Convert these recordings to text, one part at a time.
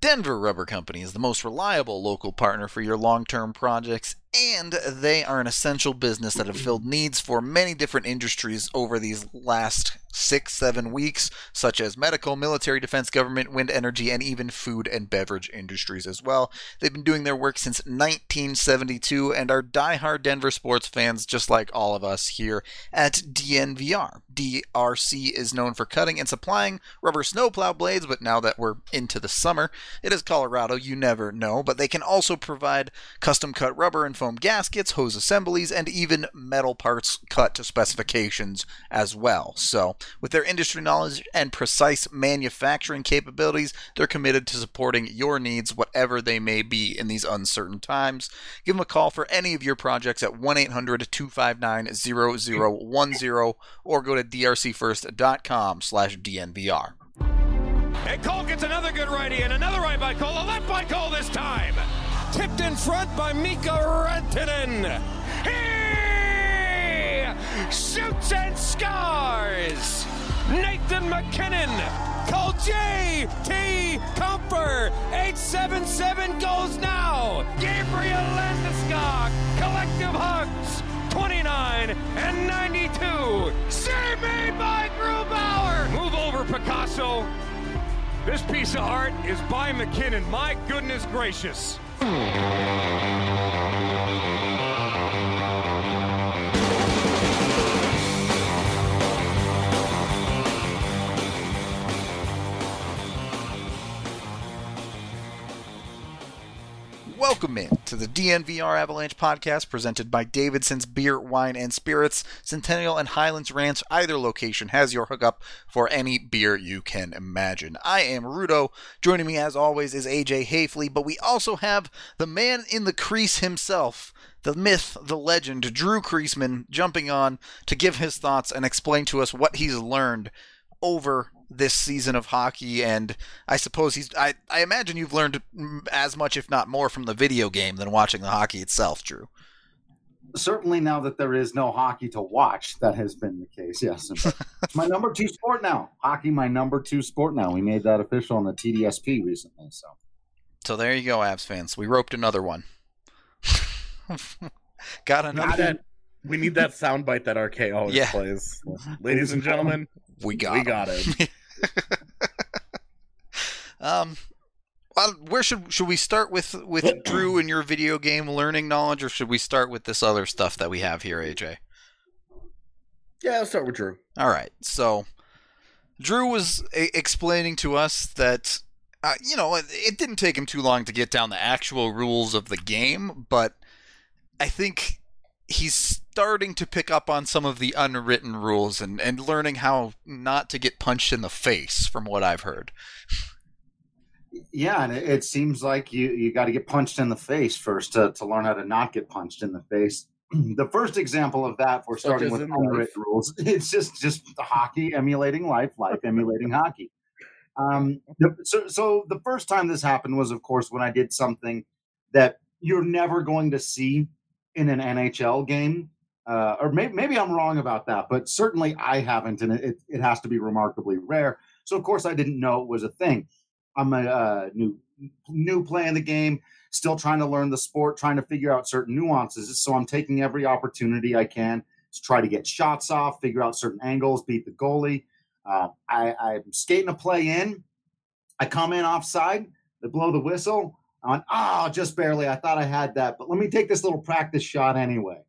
Denver Rubber Company is the most reliable local partner for your long-term projects, and they are an essential business that have filled needs for many different industries over these last 6-7 weeks, such as medical, military, defense, government, wind energy, and even food and beverage industries as well. They've been doing their work since 1972 and are diehard Denver sports fans just like all of us here at DNVR. DRC is known for cutting and supplying rubber snowplow blades, but now that we're into the summer, it is Colorado, you never know, but they can also provide custom-cut rubber and foam gaskets, hose assemblies, and even metal parts cut to specifications as well. So, with their industry knowledge and precise manufacturing capabilities, they're committed to supporting your needs, whatever they may be in these uncertain times. Give them a call for any of your projects at 1-800-259-0010 or go to drcfirst.com/DNVR. And Cole gets another good righty and another right by Cole, a left by Cole this time. Tipped in front by Mika Rantanen. He shoots and scores. Nathan MacKinnon. Cole J.T. Comfer. 877 goes now. Gabriel Landeskog. Collective hugs. 29 and 92. Save made by Grubauer. Move over, Picasso. This piece of art is by McKinnon. My goodness gracious. Welcome in to the DNVR Avalanche podcast presented by Davidson's Beer, Wine, and Spirits. Centennial and Highlands Ranch, either location has your hookup for any beer you can imagine. I am Rudo. Joining me as always is AJ Hafley, but we also have the man in the crease himself, the myth, the legend, Drew Creasman, jumping on to give his thoughts and explain to us what he's learned over this season of hockey. And I suppose I imagine you've learned as much, if not more, from the video game than watching the hockey itself, Drew. Certainly now that there is no hockey to watch, that has been the case, yes. It's my number 2 sport now. Hockey, my number 2 sport now. We made that official on the TDSP recently. So there you go, Avs fans. We roped another one. Got another. We need that soundbite that RK always plays. Ladies and gentlemen, we got it. Well, where should we start with Drew and your video game learning knowledge, or should we start with this other stuff that we have here, AJ? Yeah, let's start with Drew. All right. So Drew was explaining to us that it didn't take him too long to get down the actual rules of the game, but I think he's starting to pick up on some of the unwritten rules and learning how not to get punched in the face, from what I've heard. Yeah, and it seems like you got to get punched in the face first to learn how to not get punched in the face. The first example of that, we're starting with unwritten rules. It's just hockey emulating life emulating hockey. So the first time this happened was, of course, when I did something that you're never going to see in an NHL game. Or maybe I'm wrong about that, but certainly I haven't, and it has to be remarkably rare. So, of course, I didn't know it was a thing. I'm a new playing the game, still trying to learn the sport, trying to figure out certain nuances. So I'm taking every opportunity I can to try to get shots off, figure out certain angles, beat the goalie. I'm skating a play in. I come in offside. They blow the whistle. I'm on, just barely. I thought I had that, but let me take this little practice shot anyway.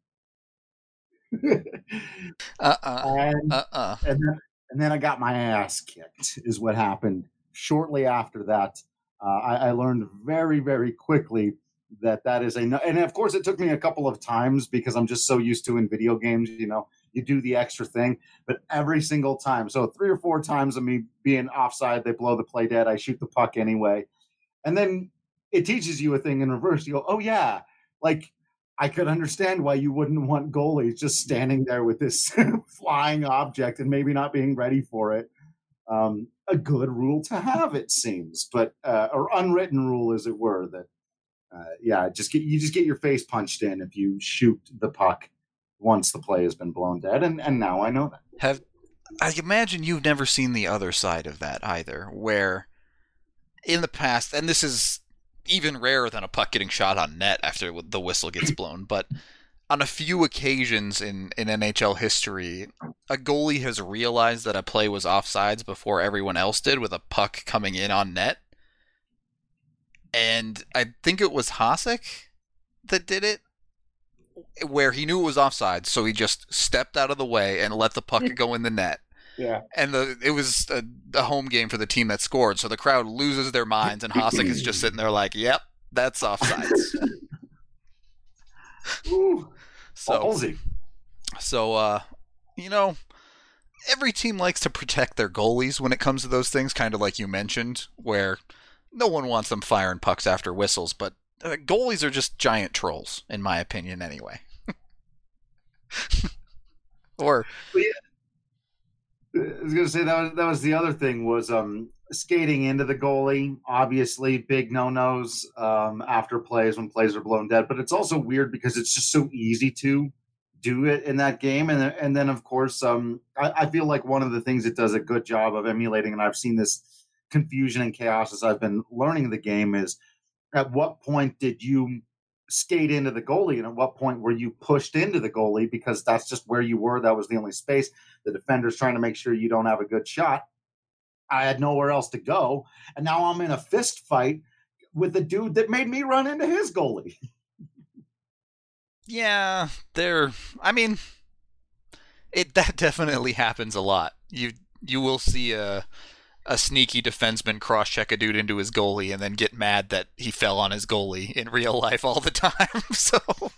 And then I got my ass kicked is what happened. Shortly after that, I learned very, very quickly that is and of course it took me a couple of times because I'm just so used to in video games, you do the extra thing, but every single time, so 3 or 4 times of me being offside, they blow the play dead, I shoot the puck anyway. And then it teaches you a thing in reverse. You go, oh yeah, like I could understand why you wouldn't want goalies just standing there with this flying object and maybe not being ready for it. A good rule to have, it seems, but or unwritten rule, as it were, that you just get your face punched in if you shoot the puck once the play has been blown dead, and now I know that. I imagine you've never seen the other side of that either, where in the past, and this is even rarer than a puck getting shot on net after the whistle gets blown, but on a few occasions in NHL history, a goalie has realized that a play was offsides before everyone else did with a puck coming in on net. And I think it was Hasek that did it, where he knew it was offside, so he just stepped out of the way and let the puck go in the net. Yeah. And it was a home game for the team that scored, so the crowd loses their minds, and Hasek is just sitting there like, yep, that's offsides. So, every team likes to protect their goalies when it comes to those things, kind of like you mentioned, where no one wants them firing pucks after whistles, but goalies are just giant trolls, in my opinion, anyway. Or... I was going to say that was the other thing was skating into the goalie. Obviously, big no-nos after plays when plays are blown dead. But it's also weird because it's just so easy to do it in that game. And then, of course, I feel like one of the things it does a good job of emulating, and I've seen this confusion and chaos as I've been learning the game, is at what point did you skate into the goalie, and at what point were you pushed into the goalie, because that's just where you were. That was the only space. The defender's trying to make sure you don't have a good shot. I had nowhere else to go, and now I'm in a fist fight with the dude that made me run into his goalie. Yeah, that definitely happens a lot. You will see a sneaky defenseman cross-check a dude into his goalie and then get mad that he fell on his goalie in real life all the time. So,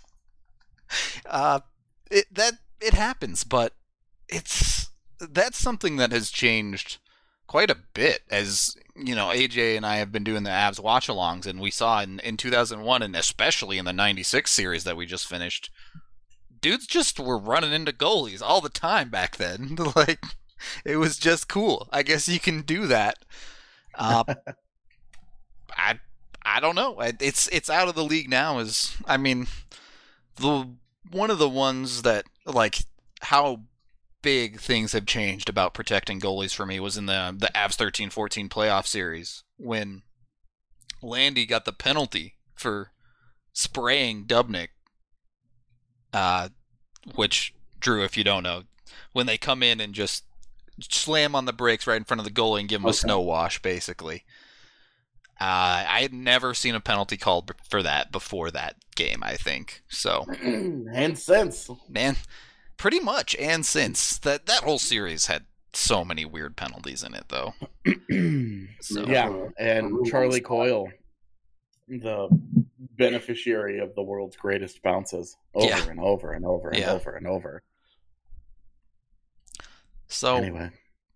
it happens, but that's something that has changed quite a bit. As AJ and I have been doing the Avs watch-alongs, and we saw in 2001, and especially in the 96 series that we just finished, dudes just were running into goalies all the time back then. Like, it was just cool. I guess you can do that. I don't know. It's out of the league now. One of the ones that, like, how big things have changed about protecting goalies for me was in the Avs 13-14 playoff series when Landy got the penalty for spraying Dubnyk, which, Drew, if you don't know, when they come in and just slam on the brakes right in front of the goalie and give him a snow wash, basically. I had never seen a penalty called for that before that game, I think. So, and since, man, pretty much, and since that whole series had so many weird penalties in it, though. So, yeah, and Charlie Coyle, the beneficiary of the world's greatest bounces, over and over and over and over and over. So anyway,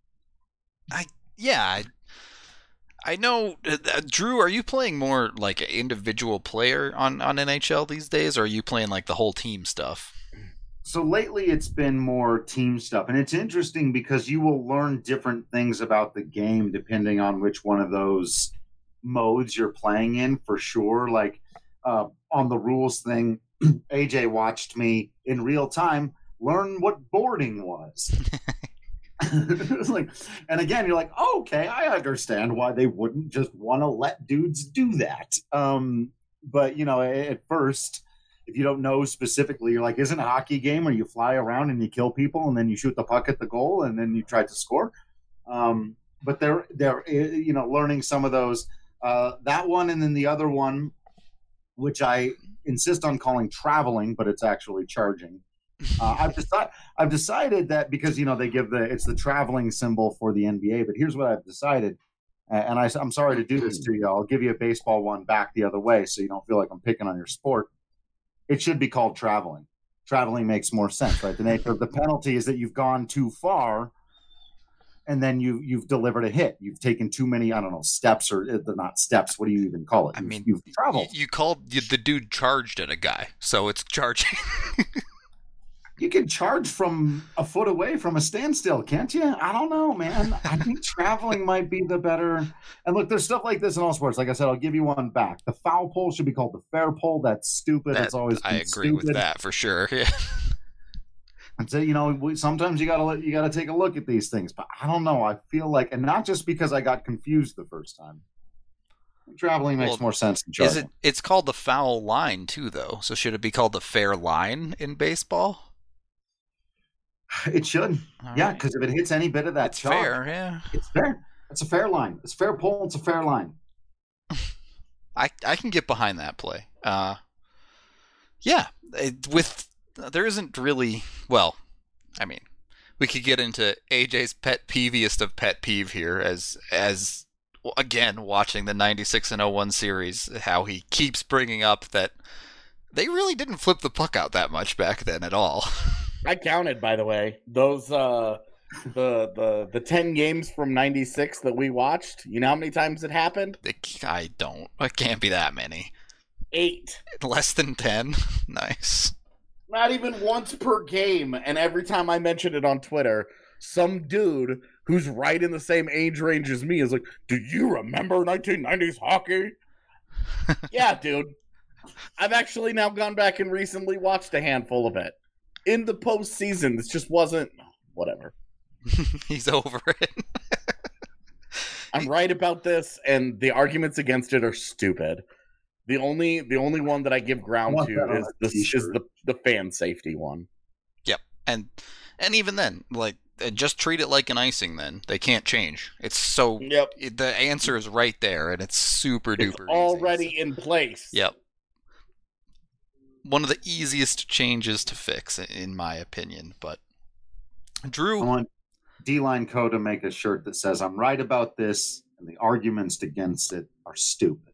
I know, Drew, are you playing more like an individual player on NHL these days, or are you playing like the whole team stuff? So lately it's been more team stuff, and it's interesting because you will learn different things about the game depending on which one of those modes you're playing in, for sure. Like on the rules thing, AJ watched me in real time learn what boarding was. It's like, and again, you're like, oh, okay, I understand why they wouldn't just want to let dudes do that. But at first, if you don't know specifically, you're like, isn't a hockey game where you fly around and you kill people and then you shoot the puck at the goal and then you try to score? But they're learning some of those. That one, and then the other one, which I insist on calling traveling, but it's actually charging. I've decided that because they give it's the traveling symbol for the NBA. But here's what I've decided, and I'm sorry to do this to you. I'll give you a baseball one back the other way, so you don't feel like I'm picking on your sport. It should be called traveling. Traveling makes more sense, right? The nature of the penalty is that you've gone too far, and then you've delivered a hit. You've taken too many, steps, or they're not steps. What do you even call it? You've traveled. You called the dude charged at a guy, so it's charging. You can charge from a foot away from a standstill, can't you? I don't know, man. I think traveling might be the better. And look, there's stuff like this in all sports. Like I said, I'll give you one back. The foul pole should be called the fair pole. That's stupid. It's always been agree with that for sure. Yeah. And so, sometimes you gotta take a look at these things. But I don't know. I feel like, and not just because I got confused the first time, Traveling makes more sense than juggling. It's called the foul line, too, though. So should it be called the fair line in baseball? It should. All yeah, because if it hits any bit of that it's fair, yeah. It's fair. It's a fair line. It's fair pull. It's a fair line. I can get behind that play. Yeah, there isn't really, well, I mean, we could get into AJ's pet peeviest of pet peeve here as again, watching the 96 and 01 series, how he keeps bringing up that they really didn't flip the puck out that much back then at all. I counted, by the way, those the 10 games from 96 that we watched. You know how many times it happened? I don't. It can't be that many. 8. Less than 10? Nice. Not even once per game, and every time I mention it on Twitter, some dude who's right in the same age range as me is like, do you remember 1990s hockey? Yeah, dude. I've actually now gone back and recently watched a handful of it. In the postseason, this just wasn't... Whatever. He's over it. I'm right about this, and the arguments against it are stupid. The only one that I give ground to is the fan safety one. Yep, and even then, like, just treat it like an icing. Then they can't change. It's so the answer is right there, and it's super duper already easy. In place. Yep, one of the easiest changes to fix, in my opinion. But Drew, I want D-Line Co. to make a shirt that says, "I'm right about this, and the arguments against it are stupid."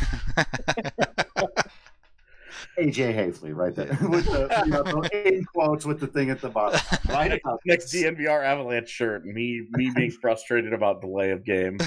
AJ Hafley, right there, with the in quotes with the thing at the bottom. Right about next DNVR Avalanche shirt. Me being frustrated about delay of game.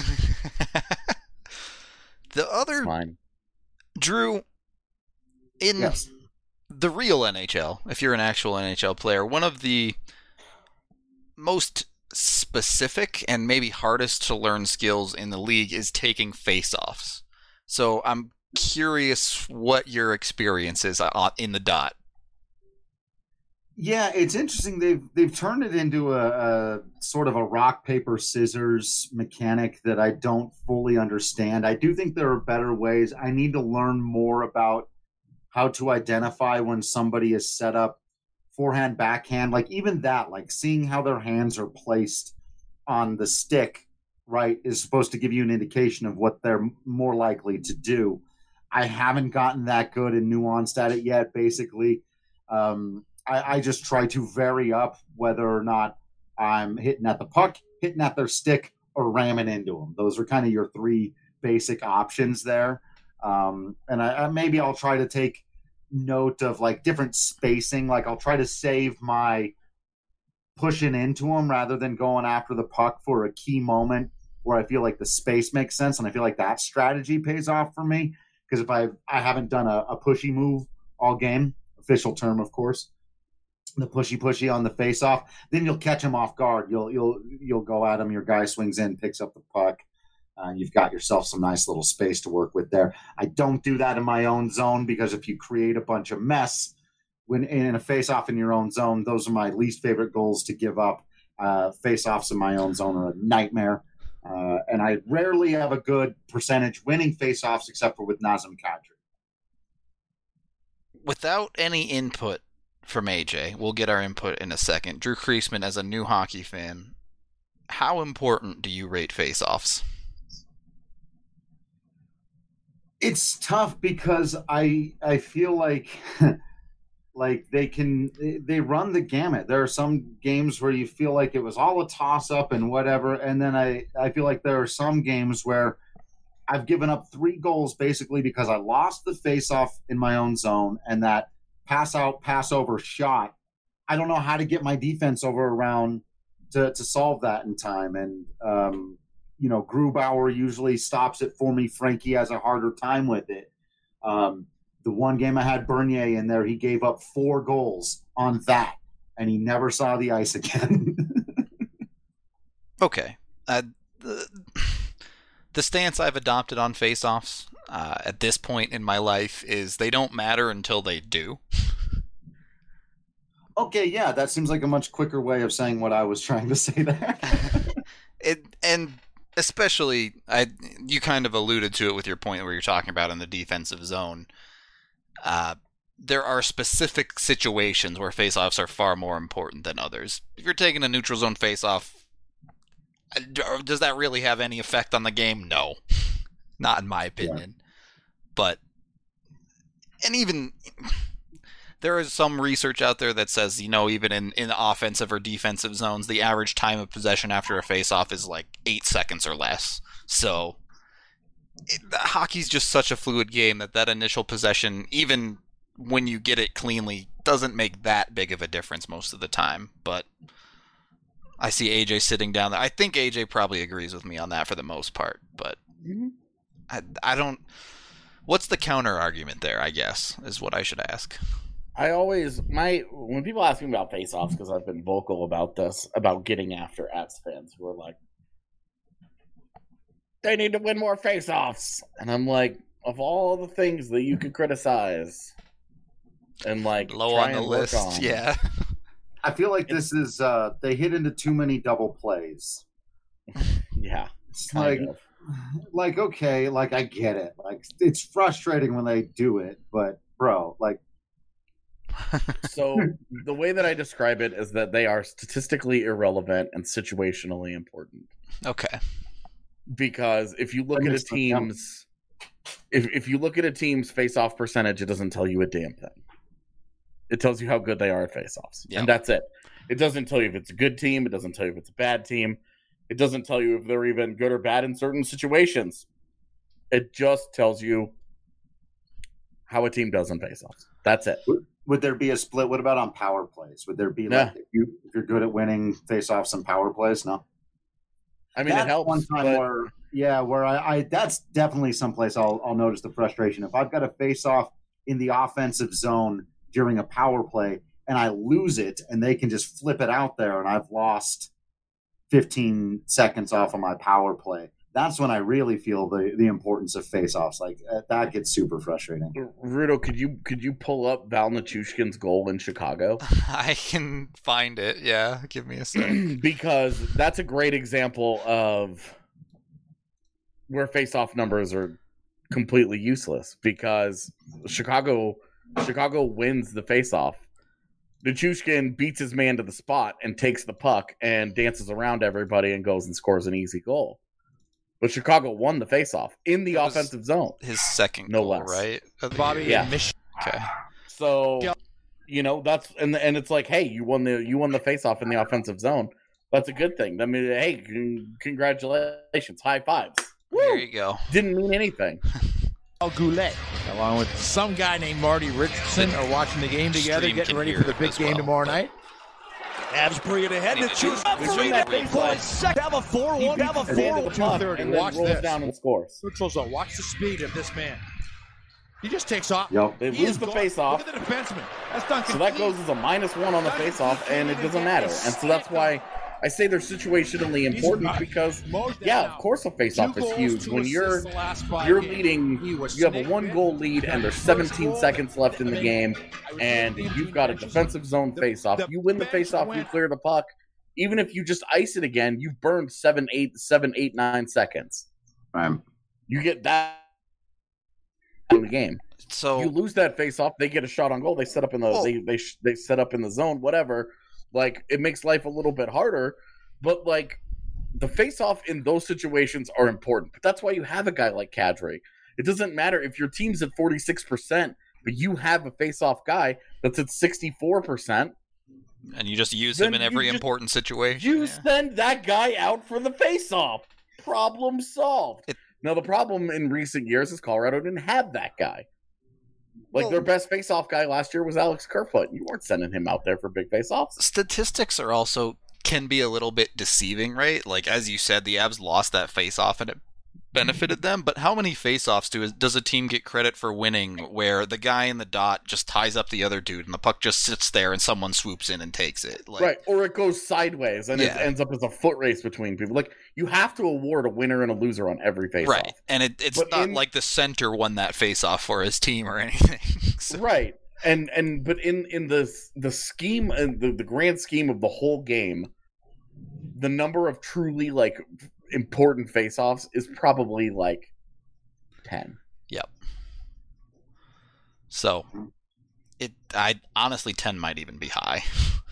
The other Drew in the real NHL, if you're an actual NHL player, one of the most specific and maybe hardest to learn skills in the league is taking face-offs. So I'm curious what your experience is in the dot. Yeah, it's interesting. They've turned it into a sort of a rock, paper, scissors mechanic that I don't fully understand. I do think there are better ways. I need to learn more about how to identify when somebody is set up forehand, backhand, like even that, like seeing how their hands are placed on the stick, right, is supposed to give you an indication of what they're more likely to do. I haven't gotten that good and nuanced at it yet, basically. I just try to vary up whether or not I'm hitting at the puck, hitting at their stick, or ramming into them. Those are kind of your three basic options there. And maybe I'll try to take note of like different spacing. Like I'll try to save my pushing into them rather than going after the puck for a key moment where I feel like the space makes sense. And I feel like that strategy pays off for me. Because if I haven't done a pushy move all game, official term, of course, the pushy on the face-off, then you'll catch him off guard. You'll go at him. Your guy swings in, picks up the puck. You've got yourself some nice little space to work with there. I don't do that in my own zone because if you create a bunch of mess when in a face-off in your own zone, those are my least favorite goals to give up. Face-offs in my own zone are a nightmare. And I rarely have a good percentage winning face-offs except for with Nazem Kadri. Without any input from AJ, we'll get our input in a second. Drew Creasman, as a new hockey fan, how important do you rate face-offs? It's tough because I feel like like they run the gamut. There are some games where you feel like it was all a toss-up and whatever, and then I feel like there are some games where I've given up 3 goals basically because I lost the face-off in my own zone, and that pass-out, pass-over shot, I don't know how to get my defense over around to solve that in time. And, Grubauer usually stops it for me. Frankie has a harder time with it. The one game I had Bernier in there, he gave up 4 goals on that, and he never saw the ice again. Okay. The stance I've adopted on face-offs at this point in my life is they don't matter until they do. Okay, yeah, that seems like a much quicker way of saying what I was trying to say there. And especially, you kind of alluded to it with your point where you're talking about in the defensive zone. There are specific situations where faceoffs are far more important than others. If you're taking a neutral zone faceoff, does that really have any effect on the game? No, not in my opinion. Yeah. But, and even there is some research out there that says, even in offensive or defensive zones, the average time of possession after a faceoff is like 8 seconds or less. So hockey's just such a fluid game that initial possession, even when you get it cleanly, doesn't make that big of a difference most of the time. But I see AJ sitting down there. I think AJ probably agrees with me on that for the most part. But I don't... What's the counter argument there, I guess, is what I should ask. When people ask me about face-offs, because I've been vocal about this, about getting after Avs fans who are like, they need to win more face-offs. And I'm like, of all the things that you could criticize and like low on the list, yeah. I feel like this is they hit into too many double plays. Yeah. It's like okay, like I get it. Like it's frustrating when they do it, but bro, like so the way that I describe it is that they are statistically irrelevant and situationally important. Okay. Because if you look at a team's if you look at a team's face-off percentage, it doesn't tell you a damn thing. It tells you how good they are at face-offs. Yep. And that's it. It doesn't tell you if it's a good team. It doesn't tell you if it's a bad team. It doesn't tell you if they're even good or bad in certain situations. It just tells you how a team does in face-offs. That's it. Would there be a split? What about on power plays? Would there be like if you're good at winning face-offs and power plays? No. I mean, that's it helps. One time where I that's definitely someplace I'll notice the frustration. If I've got a face-off in the offensive zone during a power play and I lose it and they can just flip it out there and I've lost 15 seconds off of my power play, that's when I really feel the importance of face-offs. Like that gets super frustrating. Rudo, could you pull up Val Nichushkin's goal in Chicago? I can find it. Yeah, give me a sec. Because that's a great example of where face-off numbers are completely useless. Because Chicago wins the face-off. Nichushkin beats his man to the spot and takes the puck and dances around everybody and goes and scores an easy goal. But Chicago won the face-off in the offensive zone. His second goal, less. Right? Bobby, yeah. Okay. So, that's and it's like, hey, you won the face-off in the offensive zone. That's a good thing. I mean, hey, congratulations, high fives. There you go. Didn't mean anything. Goulet, along with some guy named Marty Richardson, are watching the game together, getting ready for the big game tomorrow night. Avs bring it ahead to choose. Have a 4-1. Have a 4-1. And watch this. Down and scores. Neutral zone. Watch the speed of this man. He just takes off. Yep. They lose the face-off. Look at the defenseman. That's Duncan. So that goes as a -1 on the face-off, and it doesn't matter. And so that's why I say they're situationally important because, of course a face-off is huge. When you're leading, you have a 1-goal lead and there's 17 seconds left in the game, and you've got a defensive zone face-off. You win the face-off, you clear the puck. Even if you just ice it again, you've burned 7, 8, 9 seconds. You get that in the game. So you lose that face-off, they get a shot on goal. They set up in the they set up in the zone, whatever. Like, it makes life a little bit harder, but, like, the face-off in those situations are important. But that's why you have a guy like Kadri. It doesn't matter if your team's at 46%, but you have a face-off guy that's at 64%. And you just use him in every important situation. You send that guy out for the face-off. Problem solved. Now, the problem in recent years is Colorado didn't have that guy. Their best face-off guy last year was Alex Kerfoot. You weren't sending him out there for big face-offs. Statistics are also can be a little bit deceiving, right? Like, as you said, the Avs lost that face-off and it benefited them, but how many face-offs does a team get credit for winning where the guy in the dot just ties up the other dude and the puck just sits there and someone swoops in and takes it? Right, or it goes sideways and it ends up as a foot race between people. Like, you have to award a winner and a loser on every face-off. Right, and it's not like the center won that face-off for his team or anything. So. Right, but in the scheme and the grand scheme of the whole game, the number of truly, like, important face-offs is probably like 10. Yep. So, I honestly 10 might even be high.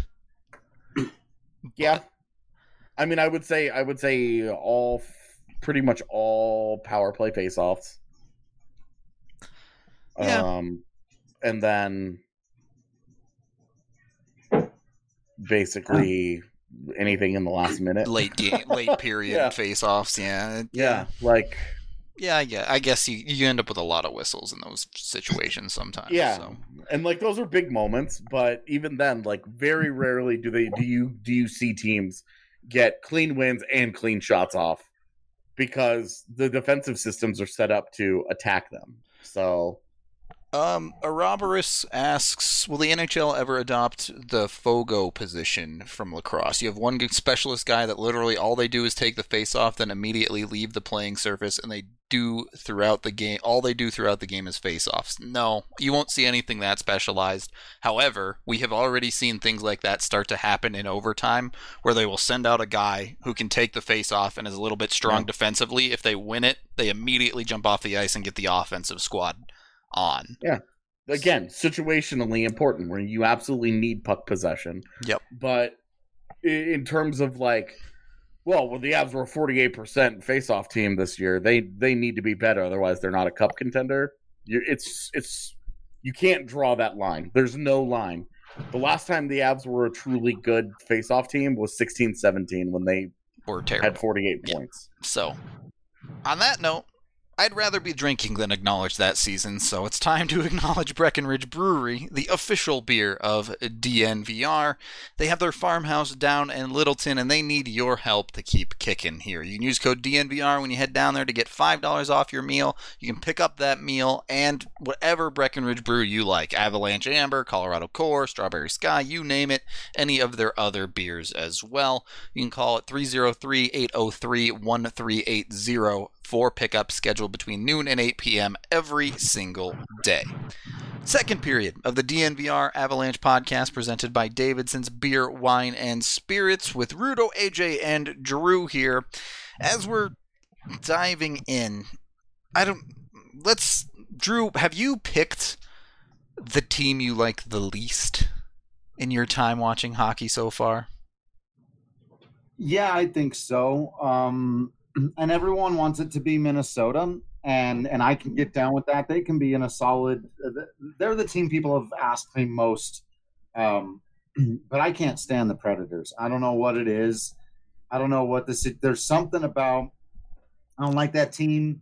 Yeah. I mean, I would say pretty much all power play face-offs. Yeah. And then basically anything in the last minute, late period face-offs. Yeah. Like. Yeah, I guess you end up with a lot of whistles in those situations sometimes. Yeah, so. And like those are big moments, but even then, like very rarely do you see teams get clean wins and clean shots off because the defensive systems are set up to attack them. So. Ouroboros asks, will the NHL ever adopt the Fogo position from lacrosse? You have one good specialist guy that literally all they do is take the face off, then immediately leave the playing surface, and all they do throughout the game is face offs. No, you won't see anything that specialized. However, we have already seen things like that start to happen in overtime, where they will send out a guy who can take the face off and is a little bit strong defensively. If they win it, they immediately jump off the ice and get the offensive squad on. Yeah. Again, situationally important where you absolutely need puck possession. Yep. But in terms of like, well, the Avs were a 48% face-off team this year. They need to be better, otherwise they're not a cup contender. You can't draw that line. There's no line. The last time the Avs were a truly good face-off team was 16-17 when they were terrible. Had 48 points. So, on that note, I'd rather be drinking than acknowledge that season, so it's time to acknowledge Breckenridge Brewery, the official beer of DNVR. They have their farmhouse down in Littleton, and they need your help to keep kicking here. You can use code DNVR when you head down there to get $5 off your meal. You can pick up that meal and whatever Breckenridge brew you like. Avalanche Amber, Colorado Core, Strawberry Sky, you name it. Any of their other beers as well. You can call it 303-803-1380 for pickup scheduled between noon and 8 p.m. every single day. Second period of the DNVR Avalanche podcast presented by Davidson's Beer, Wine, and Spirits with Rudo, AJ, and Drew here. As we're diving in, Drew, have you picked the team you like the least in your time watching hockey so far? Yeah, I think so. And everyone wants it to be Minnesota, and I can get down with that. They can be in a solid – they're the team people have asked me most. But I can't stand the Predators. I don't know what it is. I don't know what this – there's something about – I don't like that team.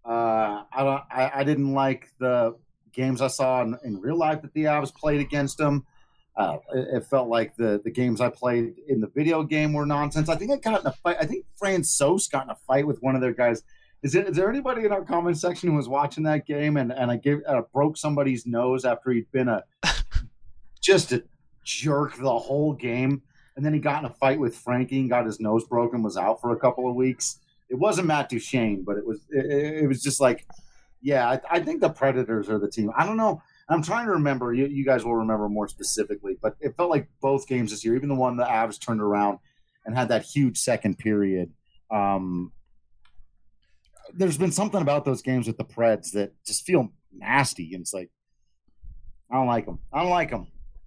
I didn't like the games I saw in real life that the Avs played against them. It felt like the games I played in the video game were nonsense. I think I got in a fight. I think Francouz got in a fight with one of their guys. Is there anybody in our comment section who was watching that game and I broke somebody's nose after he'd been just a jerk the whole game, and then he got in a fight with Frankie and got his nose broken, was out for a couple of weeks. It wasn't Matt Duchene, but it was just like, yeah, I think the Predators are the team. I don't know. I'm trying to remember. You guys will remember more specifically, but it felt like both games this year, even the one the Avs turned around and had that huge second period. There's been something about those games with the Preds that just feel nasty, and it's like, I don't like them.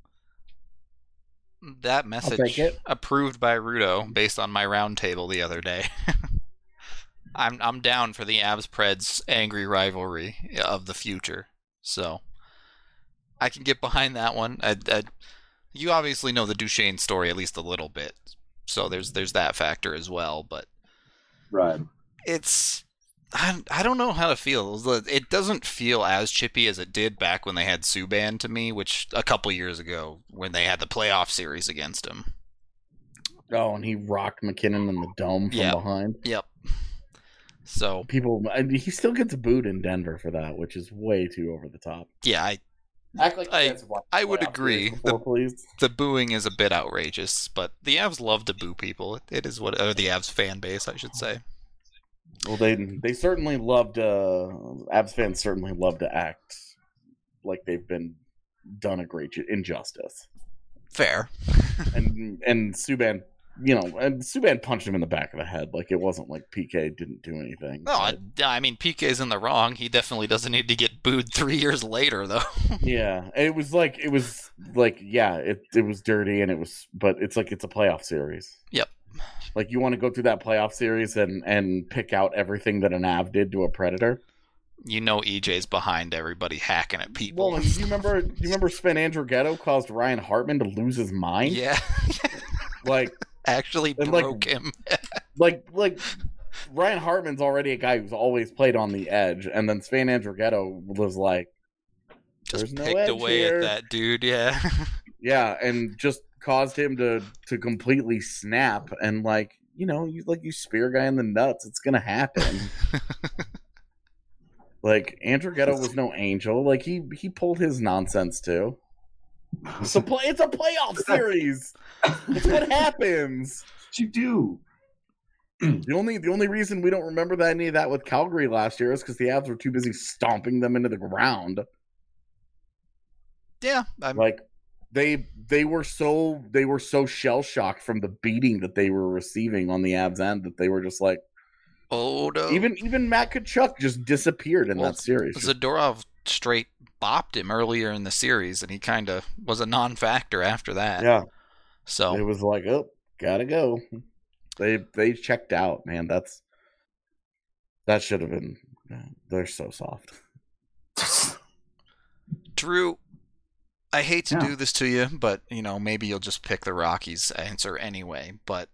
That message approved by Rudo based on my round table the other day. I'm down for the Avs Preds angry rivalry of the future, so I can get behind that one. You obviously know the Duchene story at least a little bit, so there's that factor as well. But right, I don't know how to feel. It doesn't feel as chippy as it did back when they had Subban to me, which a couple years ago when they had the playoff series against him. Oh, and he rocked McKinnon in the dome from behind. Yep. So he still gets booed in Denver for that, which is way too over the top. Yeah, I would agree. The booing is a bit outrageous, but the Avs love to boo people. It is or the Avs fan base, I should say. Well, they certainly love to. Avs fans certainly love to act like they've been done a great injustice. Fair. and Subban you know, and Subban punched him in the back of the head. Like, it wasn't like PK didn't do anything. No, I mean, PK's in the wrong. He definitely doesn't need to get booed 3 years later, though. Yeah, it was dirty, and but it's like it's a playoff series. Yep. Like, you want to go through that playoff series and pick out everything that an Av did to a Predator? You know EJ's behind everybody hacking at people. Well, do you remember Sven Andrighetto caused Ryan Hartman to lose his mind? Yeah. Like, actually broke him. like Ryan Hartman's already a guy who's always played on the edge, and then Sven Andrighetto was like, just picked away at that dude, yeah. Yeah, and just caused him to completely snap, and like, you know, you spear a guy in the nuts, it's gonna happen. Like, Andrighetto was no angel. Like, he pulled his nonsense too. It's a playoff series. It's what happens. What you do. The only reason we don't remember any of that with Calgary last year is because the Avs were too busy stomping them into the ground. Yeah, like they were so shell shocked from the beating that they were receiving on the Avs end that they were just like, oh no. Even Matt Tkachuk just disappeared in that series. Zadorov straight bopped him earlier in the series, and he kind of was a non-factor after that. Yeah. So it was like, oh, gotta go. They checked out, man. That should have been. They're so soft. Drew, I hate to do this to you, but you know, maybe you'll just pick the Rockies answer anyway. But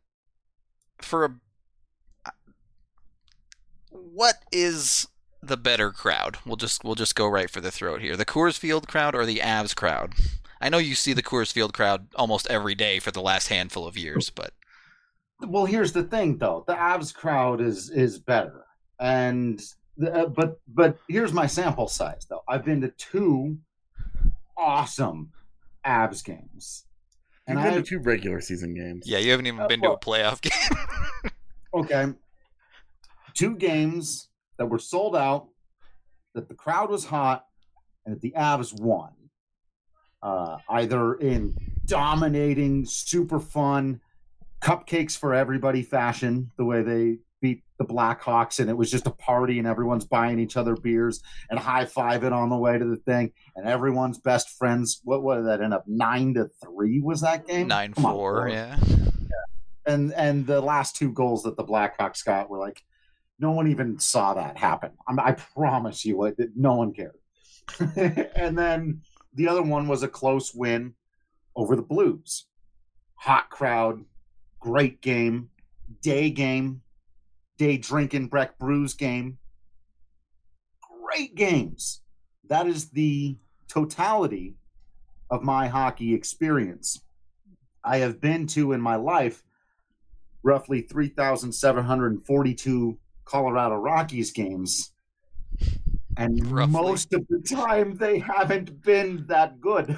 what is the better crowd? We'll just go right for the throat here. The Coors Field crowd or the Avs crowd? I know you see the Coors Field crowd almost every day for the last handful of years, but well, here's the thing, though. The Avs crowd is better, and but here's my sample size, though. I've been to 2 awesome Avs games, and I have 2 regular season games. Yeah, you haven't even been to a playoff game. Okay, 2 games that were sold out, that the crowd was hot, and that the Avs won. Either in dominating, super fun, cupcakes for everybody fashion, the way they beat the Blackhawks, and it was just a party, and everyone's buying each other beers and high-fiving on the way to the thing, and everyone's best friends. What did that end up? 9-3 was that game? 9-4, yeah. And the last 2 goals that the Blackhawks got were like, no one even saw that happen. I promise you, no one cared. And then the other one was a close win over the Blues. Hot crowd, great game, day drinking Breck Brews game. Great games. That is the totality of my hockey experience. I have been to, in my life, roughly 3,742 Colorado Rockies games. And most of the time, they haven't been that good.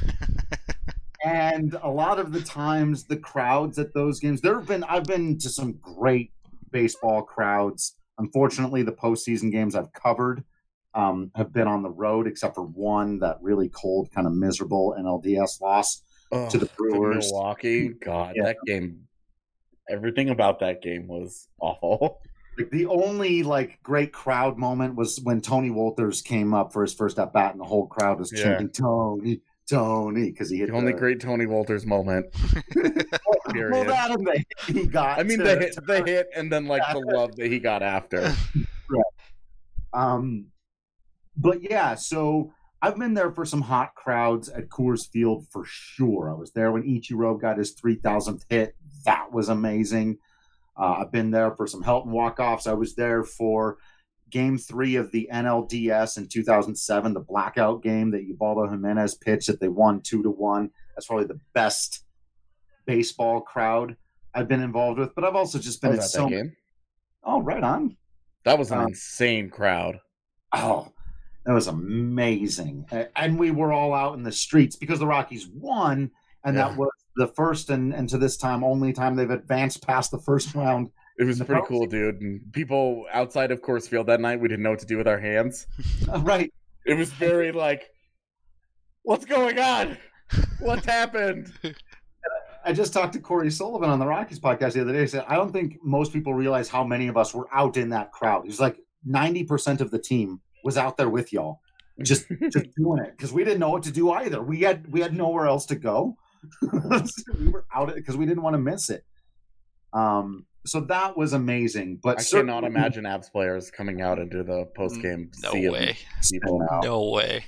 And a lot of the times, the crowds at those games, I've been to some great baseball crowds. Unfortunately, the postseason games I've covered have been on the road, except for one, that really cold, kind of miserable NLDS loss to the Brewers. To Milwaukee, God, yeah. That game, everything about that game was awful. Like, the only great crowd moment was when Tony Wolters came up for his first at bat, and the whole crowd was chanting Tony, because he hit the only great Tony Wolters moment. Well, that and the hit he got. I mean, the hit, and then the love that he got after. Right. But yeah, so I've been there for some hot crowds at Coors Field for sure. I was there when Ichiro got his 3,000th hit. That was amazing. I've been there for some Helton walk-offs. I was there for Game 3 of the NLDS in 2007, the blackout game that Ubaldo Jimenez pitched that they won 2-1. That's probably the best baseball crowd I've been involved with. But I've also just been at so many. Oh, right on. That was an insane crowd. Oh, that was amazing. And we were all out in the streets because the Rockies won, and that was the first and to this time only time they've advanced past the first round. It was pretty cool, dude. And people outside of Coors Field that night, we didn't know what to do with our hands. Right. It was very what's going on? What's happened? I just talked to Corey Sullivan on the Rockies podcast the other day. He said, I don't think most people realize how many of us were out in that crowd. He's like, 90% of the team was out there with y'all, just doing it because we didn't know what to do either. We had nowhere else to go. We were out because we didn't want to miss it. So that was amazing. But I cannot imagine Avs players coming out into the post game. No way. No way.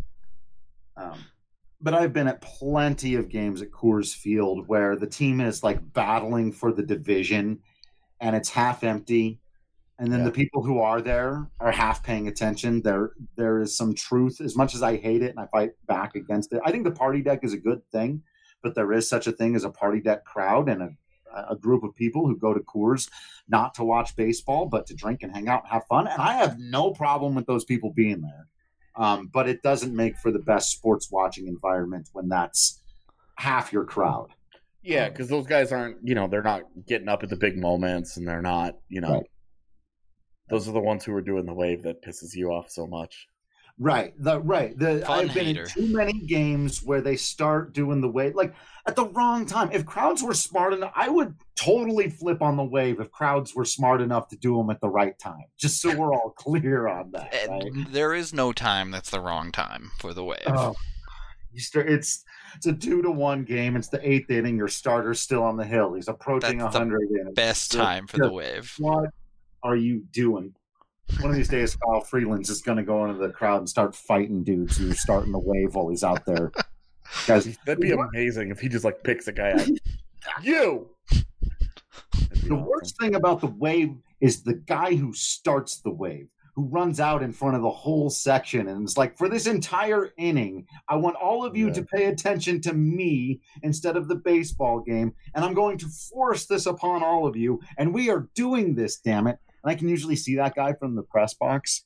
But I've been at plenty of games at Coors Field where the team is like battling for the division and it's half empty. And then the people who are there are half paying attention. There is some truth. As much as I hate it and I fight back against it, I think the party deck is a good thing, but there is such a thing as a party deck crowd and a group of people who go to Coors not to watch baseball, but to drink and hang out and have fun. And I have no problem with those people being there. But it doesn't make for the best sports watching environment when that's half your crowd. Yeah, because those guys aren't, they're not getting up at the big moments and they're not, Right. Those are the ones who are doing the wave that pisses you off so much. Right. I've been in too many games where they start doing the wave like at the wrong time. If crowds were smart enough, I would totally flip on the wave if crowds were smart enough to do them at the right time. Just so we're all clear on that. Right? There is no time that's the wrong time for the wave. Oh, it's a 2-1 game. It's the 8th inning. Your starter's still on the hill. He's approaching 100. Best time for the wave. What are you doing? One of these days, Kyle Freeland's just going to go into the crowd and start fighting dudes who are starting the wave while he's out there. Guys, that'd be amazing if he just picks a guy out. You. The worst thing about the wave is the guy who starts the wave, who runs out in front of the whole section and it's like, for this entire inning, I want all of you to pay attention to me instead of the baseball game, and I'm going to force this upon all of you, and we are doing this, damn it. And I can usually see that guy from the press box.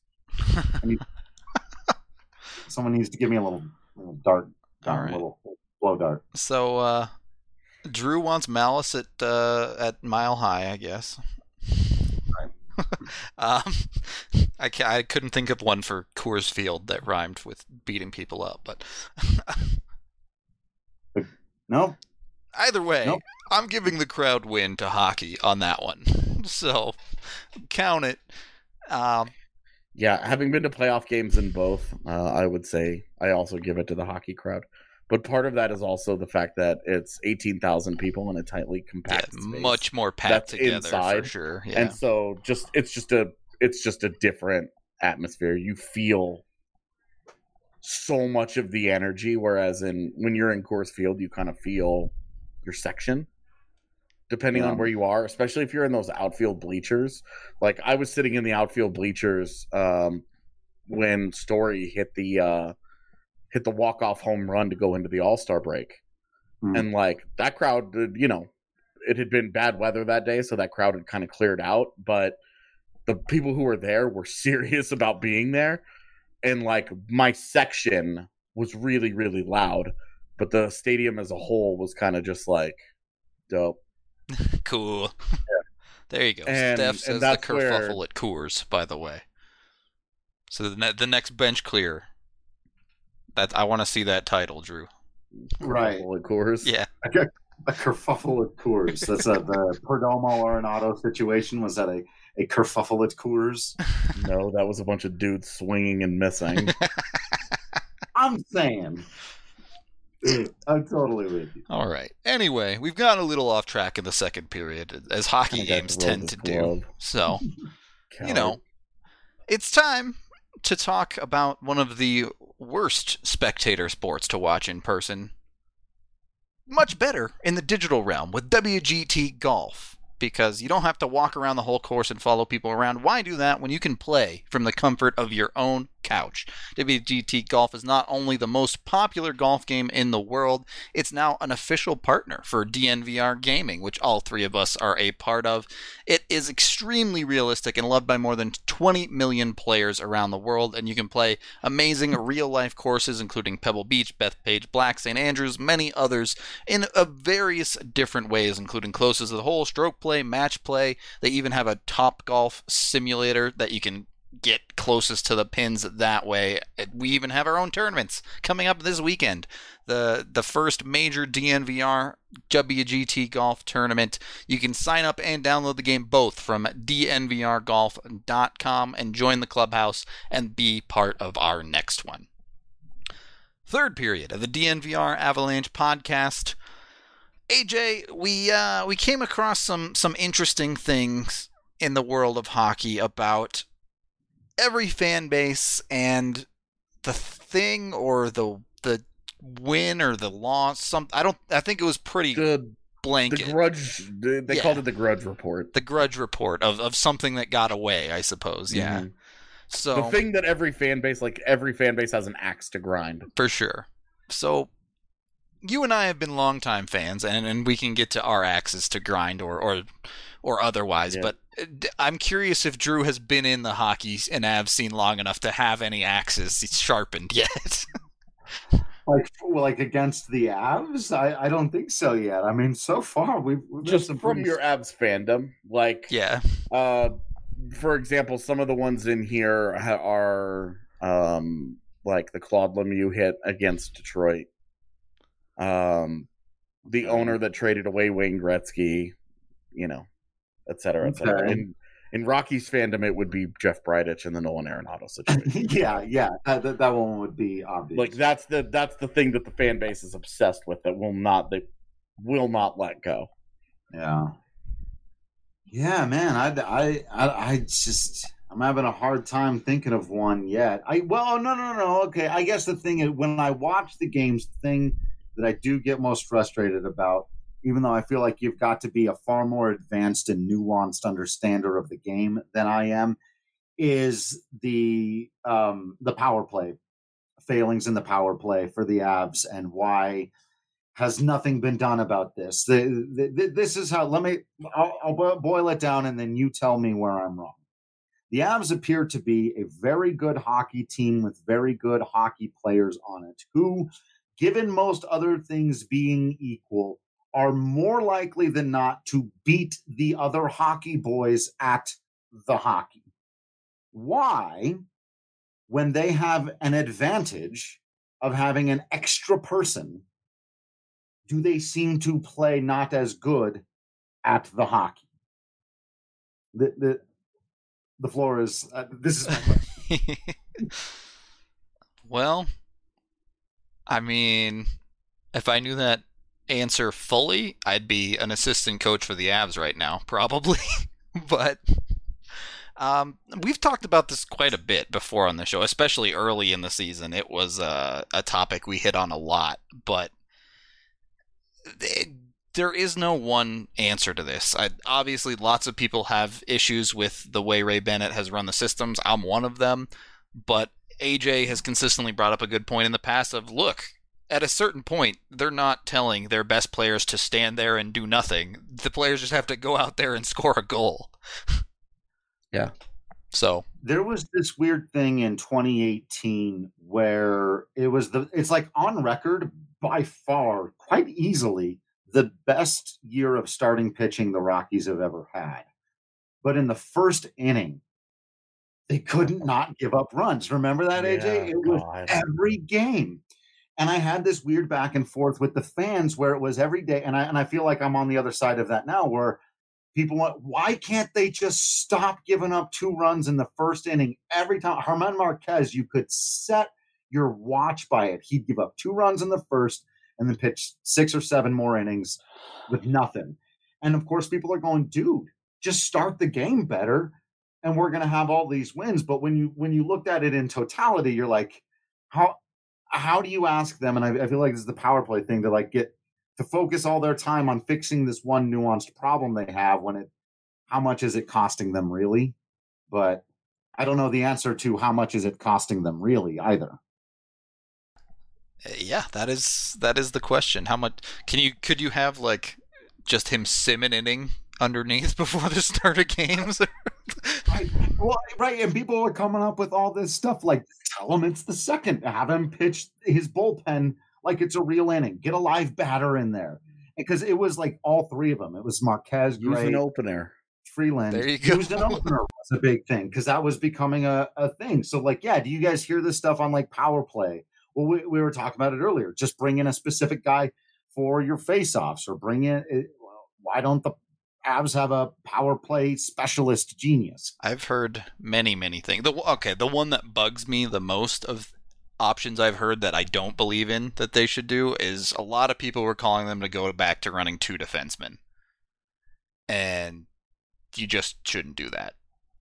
Someone needs to give me a little dart, right. A little blow dart. So, Drew wants Malice at Mile High, I guess. I couldn't think of one for Coors Field that rhymed with beating people up, but no. Either way, I'm giving the crowd win to hockey on that one. So count it. Yeah, having been to playoff games in both, I would say I also give it to the hockey crowd. But part of that is also the fact that it's 18,000 people in a tightly compact space. Much more packed together inside, for sure. Yeah. And so it's just a different atmosphere. You feel so much of the energy, whereas when you're in Coors Field, you kind of feel your section, depending on where you are, especially if you're in those outfield bleachers. Like I was sitting in the outfield bleachers when Story hit the walk-off home run to go into the All-Star break. And that crowd, it had been bad weather that day, so that crowd had kind of cleared out, but the people who were there were serious about being there. And my section was really, really loud, but the stadium as a whole was kind of just dope. Cool. Yeah. There you go. Steph says the kerfuffle at Coors, by the way. So the next bench clear. I want to see that title, Drew. Right. Kerfuffle at Coors? Yeah. A kerfuffle at Coors. That's the Perdomo Arenado situation. Was that a kerfuffle at Coors? No, that was a bunch of dudes swinging and missing. I'm saying. I'm totally with you. All right. Anyway, we've gotten a little off track in the second period, as hockey games tend to do. So, it's time to talk about one of the worst spectator sports to watch in person. Much better in the digital realm with WGT Golf, because you don't have to walk around the whole course and follow people around. Why do that when you can play from the comfort of your own couch? WGT Golf is not only the most popular golf game in the world, it's now an official partner for DNVR Gaming, which all three of us are a part of. It is extremely realistic and loved by more than 20 million players around the world, and you can play amazing real-life courses, including Pebble Beach, Bethpage, Black, St. Andrews, many others, in various different ways, including closest to the hole, stroke play, match play. They even have a Top Golf simulator that you can get closest to the pins that way. We even have our own tournaments coming up this weekend. The first major DNVR WGT Golf Tournament. You can sign up and download the game both from dnvrgolf.com and join the clubhouse and be part of our next one. Third period of the DNVR Avalanche podcast. AJ, we came across some interesting things in the world of hockey about every fan base and the thing or the win or the loss. I think it was pretty blanket. The grudge. They called it the grudge report. The grudge report of something that got away, I suppose. Yeah. Mm-hmm. So the thing that every fan base has an axe to grind. For sure. So you and I have been longtime fans, and we can get to our axes to grind or otherwise. Yeah. But I'm curious if Drew has been in the hockey and Avs scene long enough to have any axes sharpened yet. Like against the Avs? I don't think so yet. I mean, so far we've just from your Avs fandom, yeah. For example, some of the ones in here are like the Claude Lemieux hit against Detroit. The owner that traded away Wayne Gretzky, et cetera, et cetera. In Rocky's fandom, it would be Jeff Bridich and the Nolan Arenado situation. yeah, that one would be obvious. Like that's the thing that the fan base is obsessed with. They will not let go. Yeah, man. I'm having a hard time thinking of one yet. No. Okay, I guess the thing is when I watch the games, the thing that I do get most frustrated about, even though I feel like you've got to be a far more advanced and nuanced understander of the game than I am, is the power play, failings in the power play for the Avs, and why has nothing been done about this. This is how, I'll boil it down and then you tell me where I'm wrong. The Avs appear to be a very good hockey team with very good hockey players on it who, given most other things being equal, are more likely than not to beat the other hockey boys at the hockey. Why, when they have an advantage of having an extra person, do they seem to play not as good at the hockey? The floor is this is my question. Well, I mean, if I knew that answer fully, I'd be an assistant coach for the Avs right now, probably. But we've talked about this quite a bit before on the show, especially early in the season. It was a topic we hit on a lot, but there is no one answer to this. Obviously, lots of people have issues with the way Ray Bennett has run the systems. I'm one of them, but AJ has consistently brought up a good point in the past of, look, at a certain point, they're not telling their best players to stand there and do nothing. The players just have to go out there and score a goal. Yeah. So there was this weird thing in 2018 where it's like on record by far, quite easily, the best year of starting pitching the Rockies have ever had. But in the first inning, they couldn't not give up runs. Remember that, AJ? It was every game. And I had this weird back and forth with the fans where it was every day. And I feel like I'm on the other side of that now, where people went, why can't they just stop giving up 2 runs in the first inning every time? Germán Márquez, you could set your watch by it. He'd give up 2 runs in the first and then pitch 6 or 7 more innings with nothing. And of course, people are going, dude, just start the game better and we're going to have all these wins. But when you looked at it in totality, you're like, how do you ask them? And I feel like this is the power play thing to get to focus all their time on fixing this one nuanced problem they have how much is it costing them really? But I don't know the answer to how much is it costing them really either. Yeah, that is the question. How much could you have just him sim an inning underneath before the start of games? Right. And people are coming up with all this stuff like, tell him it's the second, have him pitch his bullpen like it's a real inning, get a live batter in there. Because it was like all 3 of them. It was Márquez, Gray, use an opener, Freeland used an opener was a big thing because that was becoming a thing. So, like, yeah, do you guys hear this stuff on like power play? Well, we were talking about it earlier. Just bring in a specific guy for your face-offs, or bring in. Why don't the Avs have a power play specialist genius? I've heard many things. The one that bugs me the most of options I've heard that I don't believe in that they should do is a lot of people were calling them to go back to running 2 defensemen. And you just shouldn't do that.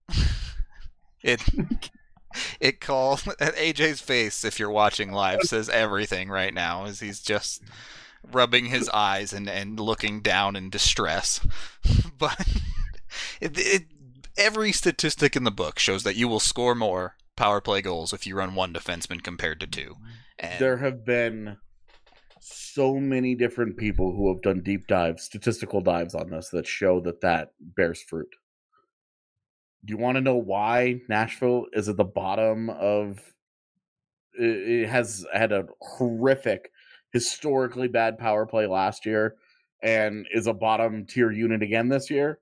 It calls AJ's face, if you're watching live, says everything right now as he's just rubbing his eyes and looking down in distress. But every statistic in the book shows that you will score more power play goals if you run 1 defenseman compared to 2. And there have been so many different people who have done deep dives, statistical dives on this that show that bears fruit. Do you want to know why Nashville is at the bottom of... It has had a horrific, historically bad power play last year and is a bottom tier unit again this year?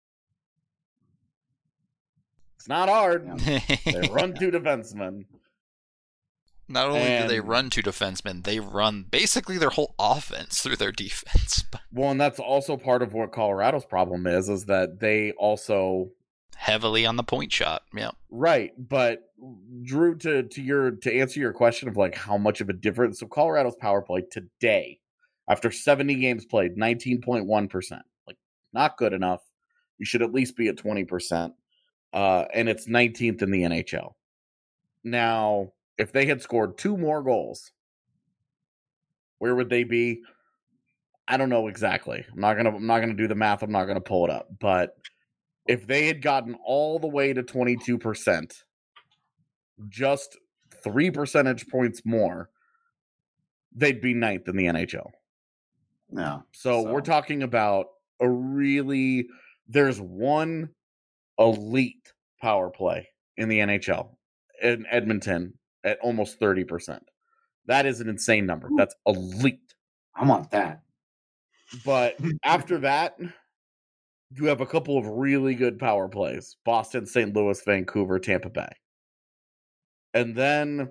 It's not hard. They run 2 defensemen. Not only do they run 2 defensemen, they run basically their whole offense through their defense. Well, and that's also part of what Colorado's problem is that they also... heavily on the point shot, yeah. Right, but Drew, to answer your question of like how much of a difference... So Colorado's power play today, after 70 games played, 19.1%. Like, not good enough. You should at least be at 20%. And it's 19th in the NHL. Now, if they had scored 2 more goals, where would they be? I don't know exactly. I'm not gonna do the math. I'm not gonna pull it up. But if they had gotten all the way to 22%, just 3 percentage points more, they'd be 9th in the NHL. No. So we're talking about there's one elite power play in the NHL in Edmonton at almost 30%. That is an insane number. That's elite. I want that. But after that, you have a couple of really good power plays. Boston, St. Louis, Vancouver, Tampa Bay. And then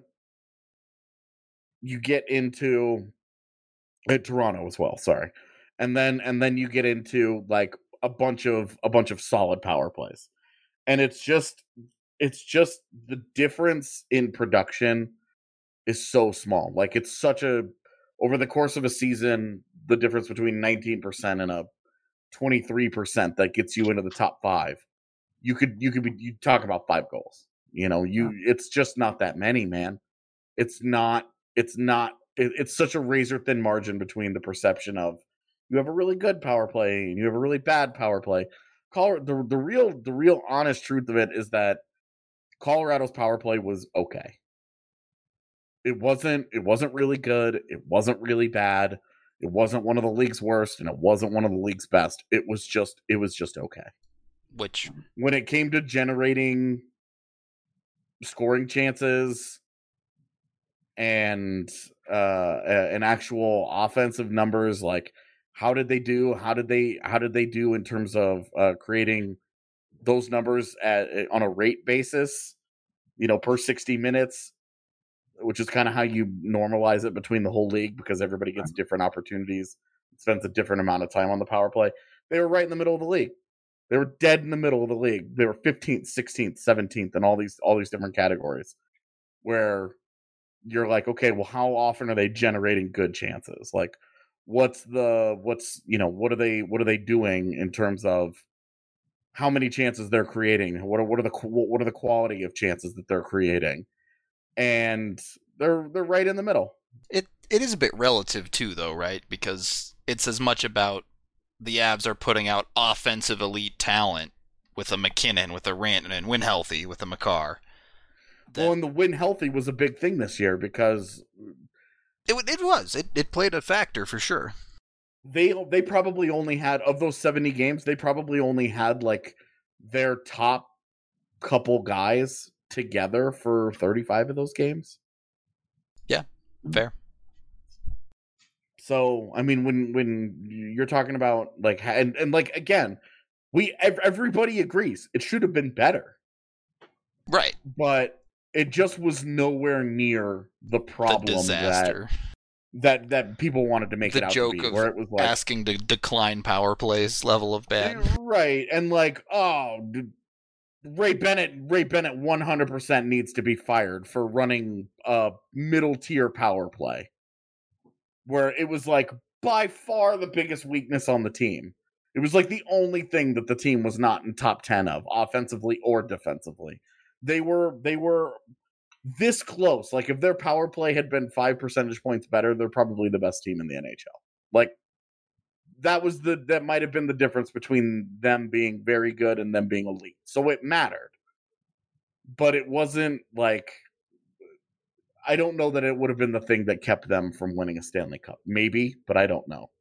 you get into Toronto as well, sorry. And then you get into like a bunch of solid power plays. And it's just the difference in production is so small. Like it's such over the course of a season, the difference between 19% and a 23% that gets you into the top 5. You talk about 5 goals. It's just not that many, man. It's such a razor thin margin between the perception of you have a really good power play and you have a really bad power play. The real honest truth of it is that Colorado's power play was okay. It wasn't really good. It wasn't really bad. It wasn't one of the league's worst, and it wasn't one of the league's best. It was just okay. Which, when it came to generating scoring chances and an actual offensive numbers, like how did they do? How did they do in terms of creating those numbers on a rate basis? Per 60 minutes. Which is kind of how you normalize it between the whole league because everybody gets different opportunities, spends a different amount of time on the power play. They were right in the middle of the league. They were dead in the middle of the league. They were 15th, 16th, 17th, and all these different categories where you're like, okay, well, how often are they generating good chances? Like, what are they doing in terms of how many chances they're creating? What are the quality of chances that they're creating? And they're right in the middle. It is a bit relative too, though, right? Because it's as much about the Avs are putting out offensive elite talent with a McKinnon, with a Rantanen, Win Healthy, with a Makar. Well, and the Win Healthy was a big thing this year because it played a factor for sure. They probably only had, of those 70 games, they probably only had like their top couple guys together for 35 of those games. Yeah, fair. So, I mean, when you're talking about like, and like, again, Everybody agrees it should have been better. Right. But it just was nowhere near the problem that people wanted to make it out to be. Where it was like asking to decline power plays level of bad. Right. And like, Ray Bennett 100% needs to be fired for running a middle tier power play. Where it was like by far the biggest weakness on the team. It was like the only thing that the team was not in top 10 of, offensively or defensively. They were this close. Like, if their power play had been 5 percentage points better, they're probably the best team in the NHL. Like, that might have been the difference between them being very good and them being elite. So it mattered. But it wasn't like, I don't know that it would have been the thing that kept them from winning a Stanley Cup. Maybe, but I don't know.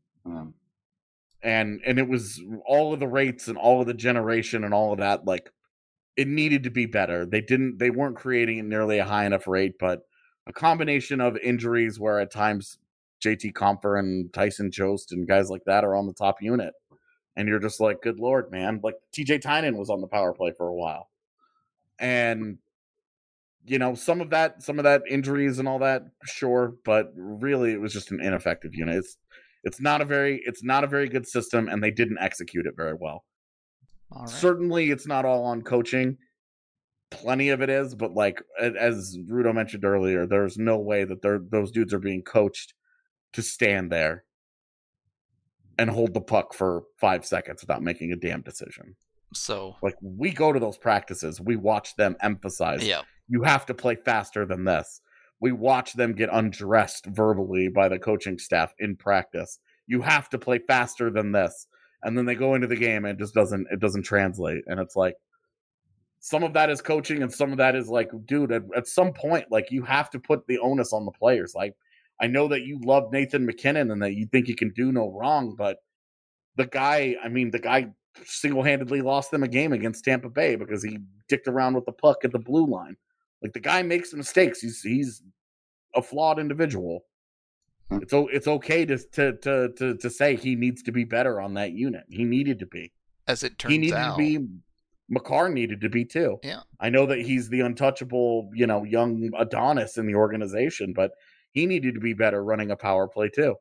And it was all of the rates and all of the generation and all of that, like, it needed to be better. They weren't creating at nearly a high enough rate, but a combination of injuries where at times JT Compher and Tyson Jost and guys like that are on the top unit. And you're just like, good Lord, man. Like, TJ Tynan was on the power play for a while. And, you know, some of that injuries and all that, sure, but really it was just an ineffective unit. It's not a very good system, and they didn't execute it very well. All right. Certainly, it's not all on coaching. Plenty of it is, but like as Rudo mentioned earlier, there's no way that those dudes are being coached to stand there and hold the puck for 5 seconds without making a damn decision. So, like, we go to those practices, we watch them emphasize, you have to play faster than this. We watch them get undressed verbally by the coaching staff in practice. You have to play faster than this. And then they go into the game and it doesn't translate. And it's like, some of that is coaching and some of that is like, dude, at some point, like, you have to put the onus on the players. Like, I know that you love Nathan McKinnon and that you think he can do no wrong, but the guy single-handedly lost them a game against Tampa Bay because he dicked around with the puck at the blue line. Like, the guy makes mistakes. He's a flawed individual. It's okay to say he needs to be better on that unit. He needed to be. As it turns out. Makar needed to be too. Yeah. I know that he's the untouchable, young Adonis in the organization, but he needed to be better running a power play too.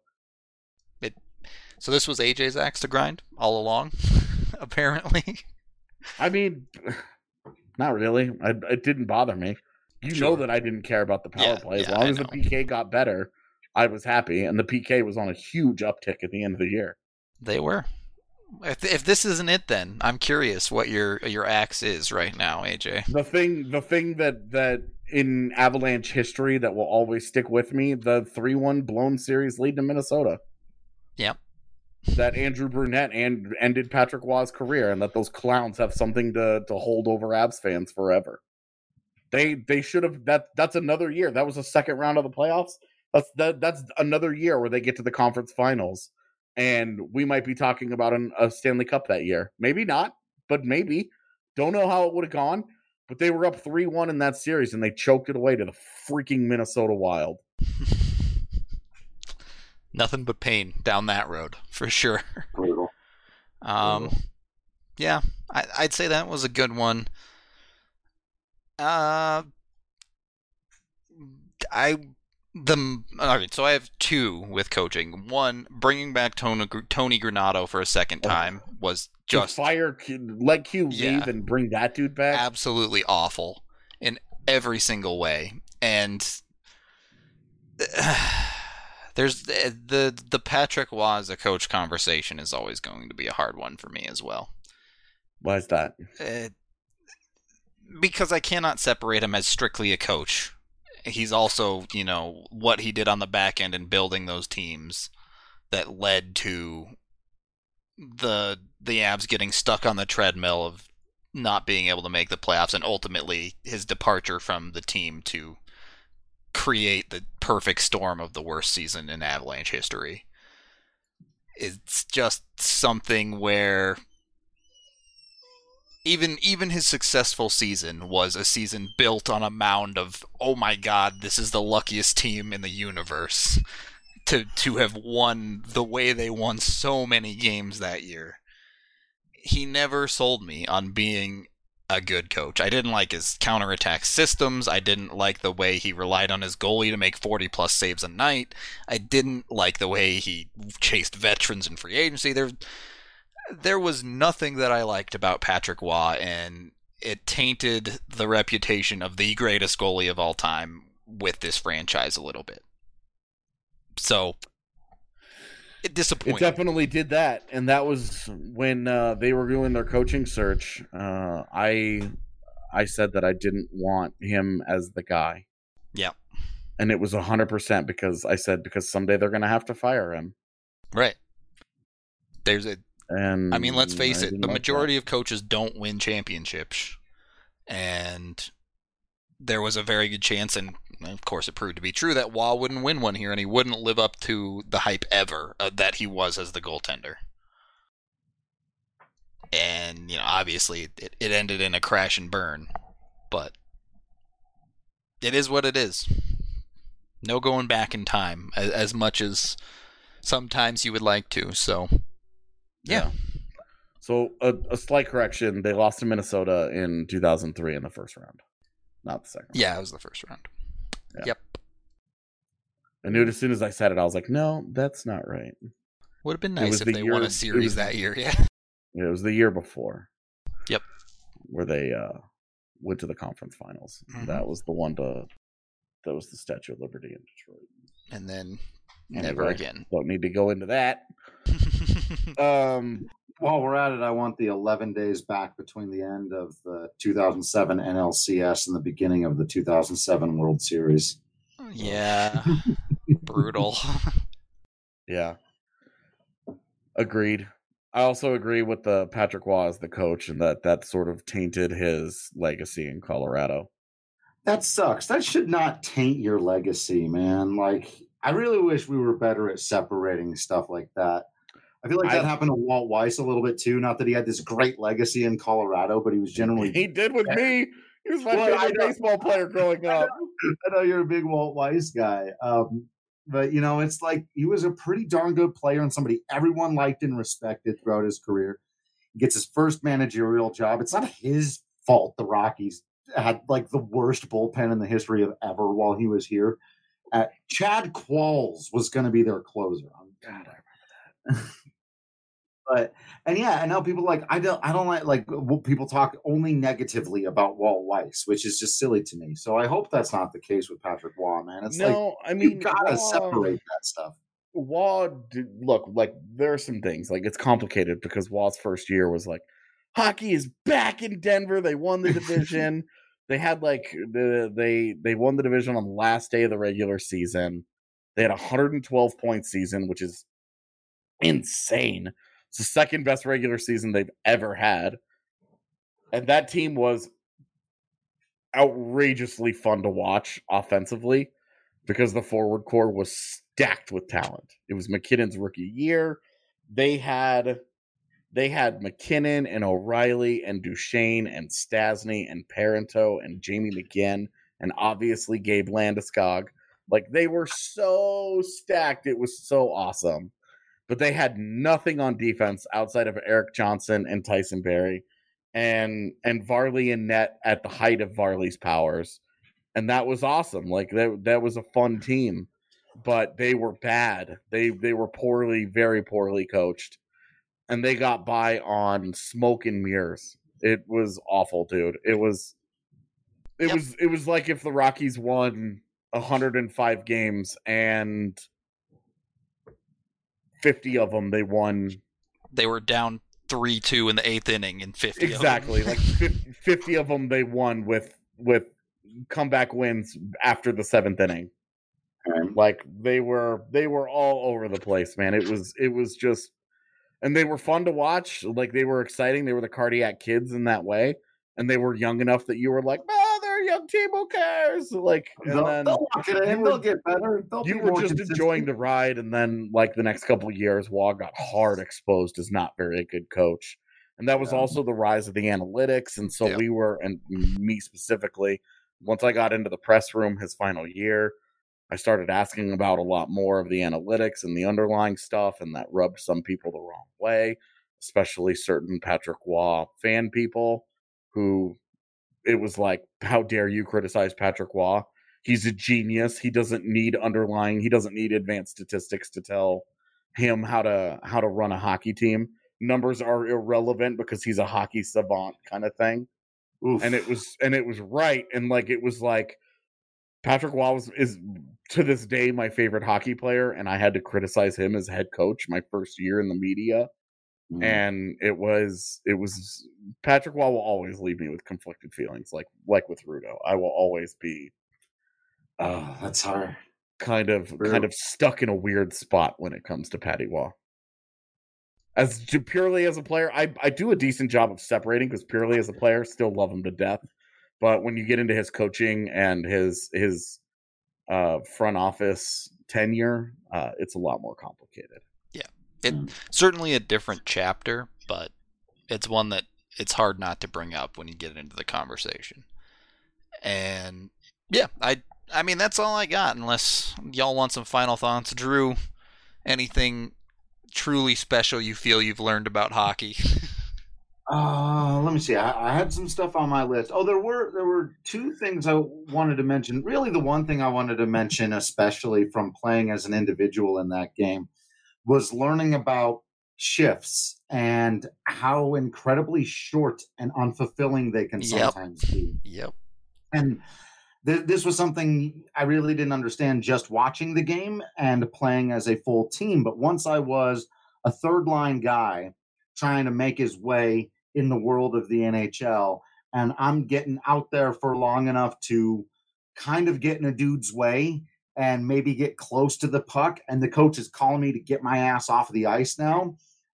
So this was AJ's axe to grind all along, apparently. I mean, not really. It didn't bother me. You know that I didn't care about the power play. As long as the PK got better, I was happy. And the PK was on a huge uptick at the end of the year. They were. If this isn't it, then I'm curious what your axe is right now, AJ. The thing that in Avalanche history that will always stick with me, the 3-1 blown series lead to Minnesota. Yep. That Andrew Brunette ended Patrick Waugh's career, and that those clowns have something to hold over Avs fans forever. They should have. That's another year. That was the second round of the playoffs. That's another year where they get to the conference finals, and we might be talking about a Stanley Cup that year. Maybe not, but maybe. Don't know how it would have gone, but they were up 3-1 in that series, and they choked it away to the freaking Minnesota Wild. Nothing but pain down that road, for sure. Brutal. Yeah, I'd say that was a good one. So I have two with coaching. One, bringing back Tony Granato for a second time was just let Q leave and bring that dude back. Absolutely awful in every single way. And there's the Patrick Waugh as a coach conversation is always going to be a hard one for me as well. Why is that? Because I cannot separate him as strictly a coach. He's also, what he did on the back end and building those teams that led to the Avs getting stuck on the treadmill of not being able to make the playoffs, and ultimately his departure from the team to create the perfect storm of the worst season in Avalanche history. It's just something where even his successful season was a season built on a mound of, oh my god, this is the luckiest team in the universe to have won the way they won so many games that year. he never sold me on being a good coach. I didn't like his counterattack systems. I didn't like the way he relied on his goalie to make 40-plus saves a night. I didn't like the way he chased veterans in free agency. There was nothing that I liked about Patrick Waugh, and it tainted the reputation of the greatest goalie of all time with this franchise a little bit. So, it disappointed. It definitely did that, and that was when they were doing their coaching search. I said that I didn't want him as the guy. Yeah. And it was 100% because someday they're going to have to fire him. Right. And I mean, let's face it, the majority of coaches don't win championships. And there was a very good chance, and of course it proved to be true, that Waugh wouldn't win one here, and he wouldn't live up to the hype ever that he was as the goaltender. And, obviously it ended in a crash and burn. But it is what it is. No going back in time, as much as sometimes you would like to, so... Yeah. So a slight correction. They lost to Minnesota in 2003 in the first round. Not the second. Yeah, it was the first round. Yeah. Yep. I knew it as soon as I said it. I was like, no, that's not right. Would have been nice if they won a series that year. Yeah. It was the year before. Yep. Where they went to the conference finals. Mm-hmm. That was the one that was the Statue of Liberty in Detroit. And then never again. Don't need to go into that. While we're at it, I want the 11 days back between the end of the 2007 NLCS and the beginning of the 2007 World Series. Yeah. Brutal. Yeah. Agreed. I also agree with the Patrick Waugh as the coach, and that sort of tainted his legacy in Colorado. That sucks. That should not taint your legacy, man. Like, I really wish we were better at separating stuff like that. I feel like that happened to Walt Weiss a little bit too. Not that he had this great legacy in Colorado, but he was generally... He did with me. He was my favorite baseball player growing up. I know you're a big Walt Weiss guy. But, it's like he was a pretty darn good player and somebody everyone liked and respected throughout his career. He gets his first managerial job. It's not his fault the Rockies had like the worst bullpen in the history of ever while he was here. Chad Qualls was going to be their closer. God, I remember that. And now people I don't like people talk only negatively about Walt Weiss, which is just silly to me. So I hope that's not the case with Patrick Waugh, man. It's you gotta separate that stuff. Waugh, look, there are some things it's complicated because Waugh's first year was hockey is back in Denver. They won the division. They had they won the division on the last day of the regular season. They had a 112-point season, which is insane. It's the second best regular season they've ever had. And that team was outrageously fun to watch offensively because the forward core was stacked with talent. It was McKinnon's rookie year. They had McKinnon and O'Reilly and Duchesne and Stasny and Parenteau and Jamie McGinn and obviously Gabe Landeskog. They were so stacked. It was so awesome. But they had nothing on defense outside of Eric Johnson and Tyson Barrie and Varley and net at the height of Varley's powers. And that was awesome. That was a fun team, but they were bad. They were very poorly coached, and they got by on smoke and mirrors. It was awful, dude. It was like if the Rockies won 105 games and 50 of them they won. They were down 3-2 in the 8th inning in 50. Exactly. 50 of them they won with comeback wins after the 7th inning. They were all over the place, man. It was just, and they were fun to watch. They were exciting. They were the cardiac kids in that way. And they were young enough that you were like, they're a young team, who cares? They'll lock it in. They'll get better. You were just enjoying the ride, and then the next couple of years, Waugh got hard exposed as not very a good coach. And that was also the rise of the analytics. And so we were, and me specifically, once I got into the press room his final year, I started asking about a lot more of the analytics and the underlying stuff, and that rubbed some people the wrong way. especially certain Patrick Waugh fan people who it was like, how dare you criticize Patrick Waugh? He's a genius. He doesn't need advanced statistics to tell him how to run a hockey team. Numbers are irrelevant because he's a hockey savant kind of thing. Oof. And it was right. And like, it was like, Patrick Waugh is to this day my favorite hockey player, and I had to criticize him as head coach my first year in the media. And it was Patrick Waugh will always leave me with conflicted feelings, like with Rudo. I will always be that's hard. Kind of stuck in a weird spot when it comes to Patty Waugh. Purely as a player, I do a decent job of separating, because purely as a player, still love him to death. But when you get into his coaching and his front office tenure, it's a lot more complicated. Yeah, it's certainly a different chapter, but it's one that it's hard not to bring up when you get into the conversation. And yeah, I mean, that's all I got, unless y'all want some final thoughts. Drew, anything truly special you feel you've learned about hockey? Let me see. I had some stuff on my list. Oh, there were two things I wanted to mention. Really, the one thing I wanted to mention, especially from playing as an individual in that game, was learning about shifts and how incredibly short and unfulfilling they can sometimes be. Yep. And this was something I really didn't understand just watching the game and playing as a full team. But once I was a third line guy trying to make his way in the world of the NHL, and I'm getting out there for long enough to kind of get in a dude's way and maybe get close to the puck, and the coach is calling me to get my ass off of the ice now.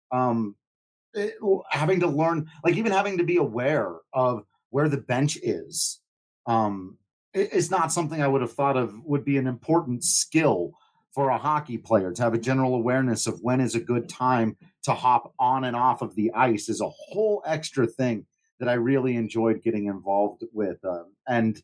Having to learn, like even having to be aware of where the bench is, it's not something I would have thought of would be an important skill for a hockey player. To have a general awareness of when is a good time to hop on and off of the ice is a whole extra thing that I really enjoyed getting involved with, and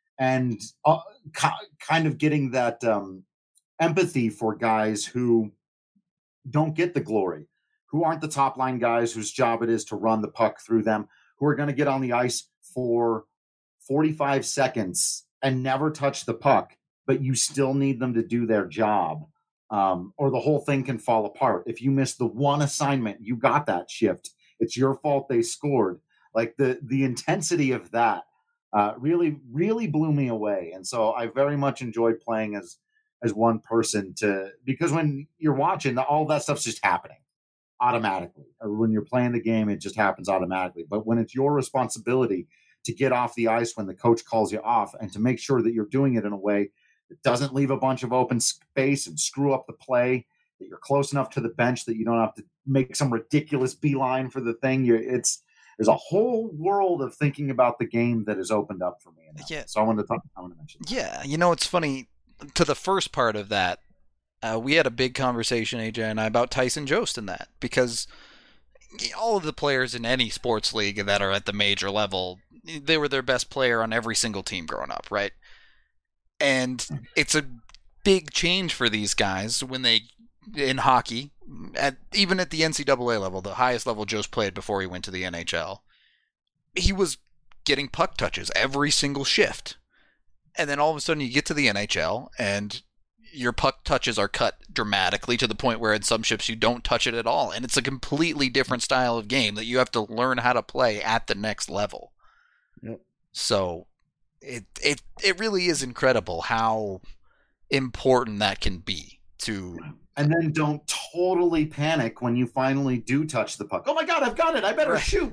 kind of getting that empathy for guys who don't get the glory, who aren't the top line guys whose job it is to run the puck through them, who are going to get on the ice for 45 seconds and never touch the puck, but you still need them to do their job, or the whole thing can fall apart. If you miss the one assignment, you got that shift. It's your fault they scored. Like the intensity of that really, really blew me away. And so I very much enjoyed playing as one person, because when you're watching, all that stuff's just happening automatically. Or when you're playing the game, it just happens automatically. But when it's your responsibility to get off the ice when the coach calls you off, and to make sure that you're doing it in a way that doesn't leave a bunch of open space and screw up the play, that you're close enough to the bench that you don't have to make some ridiculous beeline for the thing. There's a whole world of thinking about the game that has opened up for me. Yeah. So I want to mention that. Yeah, it's funny, to the first part of that, we had a big conversation, AJ and I, about Tyson Jost in that, because all of the players in any sports league that are at the major level, they were their best player on every single team growing up, right? And it's a big change for these guys when they, in hockey, even at the NCAA level, the highest level Jost played before he went to the NHL, he was getting puck touches every single shift. And then all of a sudden you get to the NHL and your puck touches are cut dramatically to the point where in some shifts you don't touch it at all. And it's a completely different style of game that you have to learn how to play at the next level. Yep. So it really is incredible how important that can be to. And then don't totally panic when you finally do touch the puck. Oh my God, I've got it. I better shoot.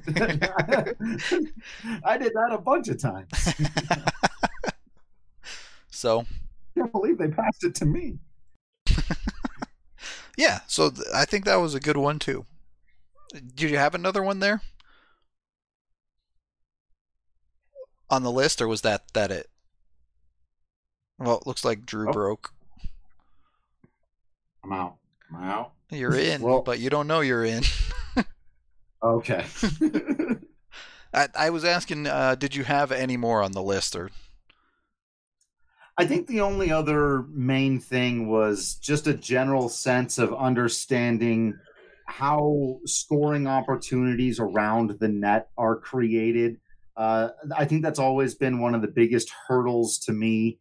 I did that a bunch of times. So. I can't believe they passed it to me. Yeah, so I think that was a good one too. Did you have another one there on the list, or was that it? Well, it looks like Drew broke. I'm out. You're in, but you don't know you're in. Okay. I was asking, did you have any more on the list, or? I think the only other main thing was just a general sense of understanding how scoring opportunities around the net are created. I think that's always been one of the biggest hurdles to me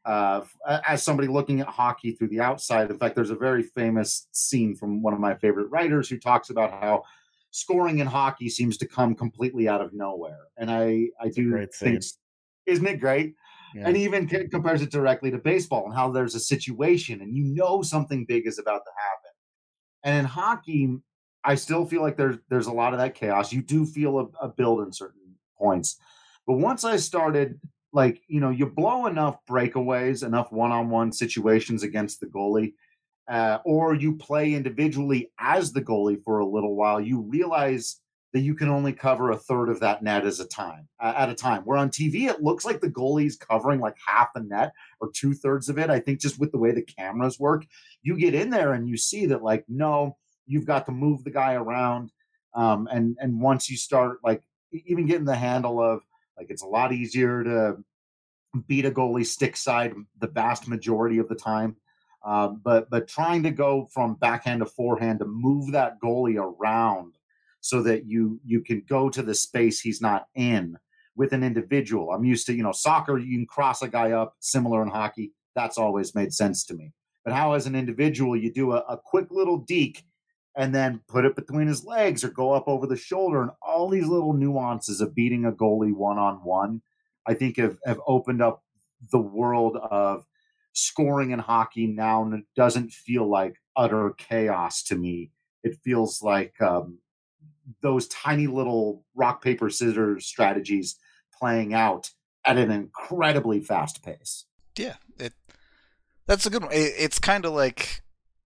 as somebody looking at hockey through the outside. In fact, there's a very famous scene from one of my favorite writers who talks about how scoring in hockey seems to come completely out of nowhere. And I do think, isn't it great? Yeah. And even compares it directly to baseball and how there's a situation and you know something big is about to happen. And in hockey, I still feel like there's a lot of that chaos. You do feel a build in certain points. But once I started, like, you know, you blow enough breakaways, enough one-on-one situations against the goalie, or you play individually as the goalie for a little while, you realize that you can only cover a third of that net at a time. Where on TV, it looks like the goalie's covering like half the net or 2/3 of it. I think just with the way the cameras work, you get in there and you see that, like, no, you've got to move the guy around. And once you start, like, even getting the handle of, like, it's a lot easier to beat a goalie stick side the vast majority of the time. But trying to go from backhand to forehand to move that goalie around so that you can go to the space he's not in with an individual. I'm used to, you know, soccer, you can cross a guy up, similar in hockey. That's always made sense to me. But how as an individual you do a quick little deke and then put it between his legs or go up over the shoulder, and all these little nuances of beating a goalie one-on-one, I think have opened up the world of scoring in hockey now, and it doesn't feel like utter chaos to me. It feels like those tiny little rock, paper, scissors strategies playing out at an incredibly fast pace. Yeah, that's a good one. It's kind of like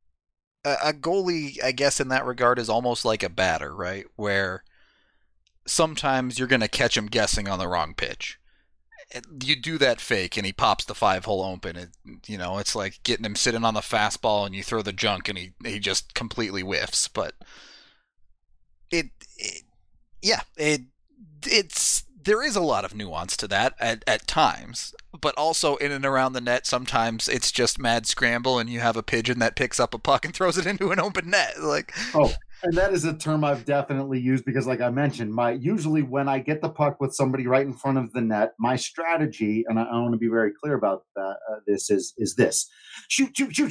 a goalie, I guess, in that regard, is almost like a batter, right? Where sometimes you're going to catch him guessing on the wrong pitch. You do that fake and he pops the 5-hole open. You know, it's like getting him sitting on the fastball and you throw the junk and he just completely whiffs. But there is a lot of nuance to that at times, but also in and around the net, sometimes it's just mad scramble and you have a pigeon that picks up a puck and throws it into an open net. Like, oh, and that is a term I've definitely used because, like I mentioned, usually when I get the puck with somebody right in front of the net, my strategy, and I want to be very clear about that, this is this: shoot.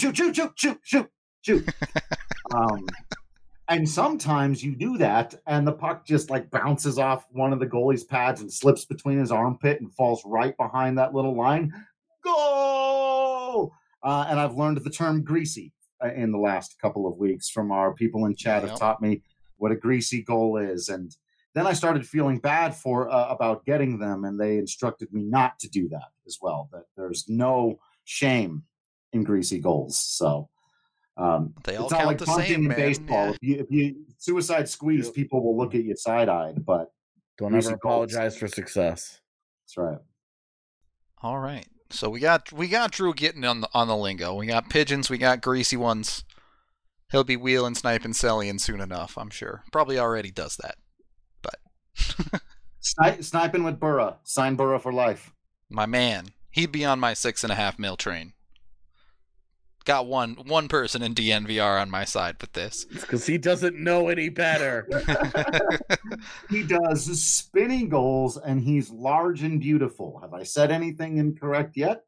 And sometimes you do that, and the puck just like bounces off one of the goalie's pads and slips between his armpit and falls right behind that little line. Goal! And I've learned the term greasy in the last couple of weeks from our people in chat have taught me what a greasy goal is. And then I started feeling bad about getting them, and they instructed me not to do that as well, that there's no shame in greasy goals. So they all it's not count like the punting same, in man. baseball. Yeah. If you suicide squeeze, people will look at you side-eyed, but don't ever apologize for success. That's right. All right. So we got Drew getting on the lingo. We got pigeons, we got greasy ones. He'll be wheeling, sniping, selling soon enough, I'm sure. Probably already does that. But sniping with Burra. Sign Burra for life. My man. He'd be on my 6.5 mil train. Got one person in DNVR on my side with this. It's because he doesn't know any better. He does spinning goals, and he's large and beautiful. Have I said anything incorrect yet?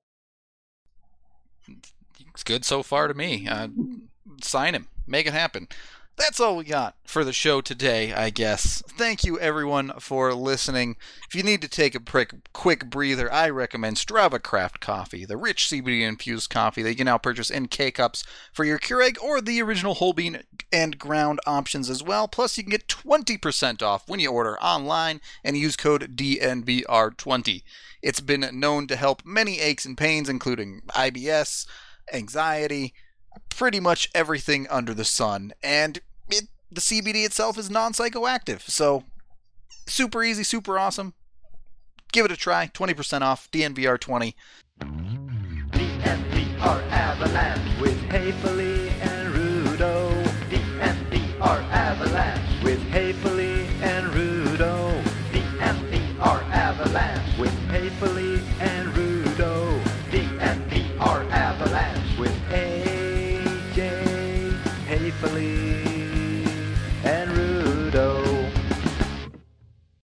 It's good so far to me. Sign him. Make it happen. That's all we got for the show today, I guess. Thank you, everyone, for listening. If you need to take a quick breather, I recommend Strava Craft Coffee, the rich CBD-infused coffee that you can now purchase in K-Cups for your Keurig or the original whole bean and ground options as well. Plus, you can get 20% off when you order online and use code DNVR20. It's been known to help many aches and pains, including IBS, anxiety, pretty much everything under the sun, and the CBD itself is non-psychoactive, so super easy, super awesome. Give it a try. 20% off. DNVR20. DNVR Avalanche with Haefeli.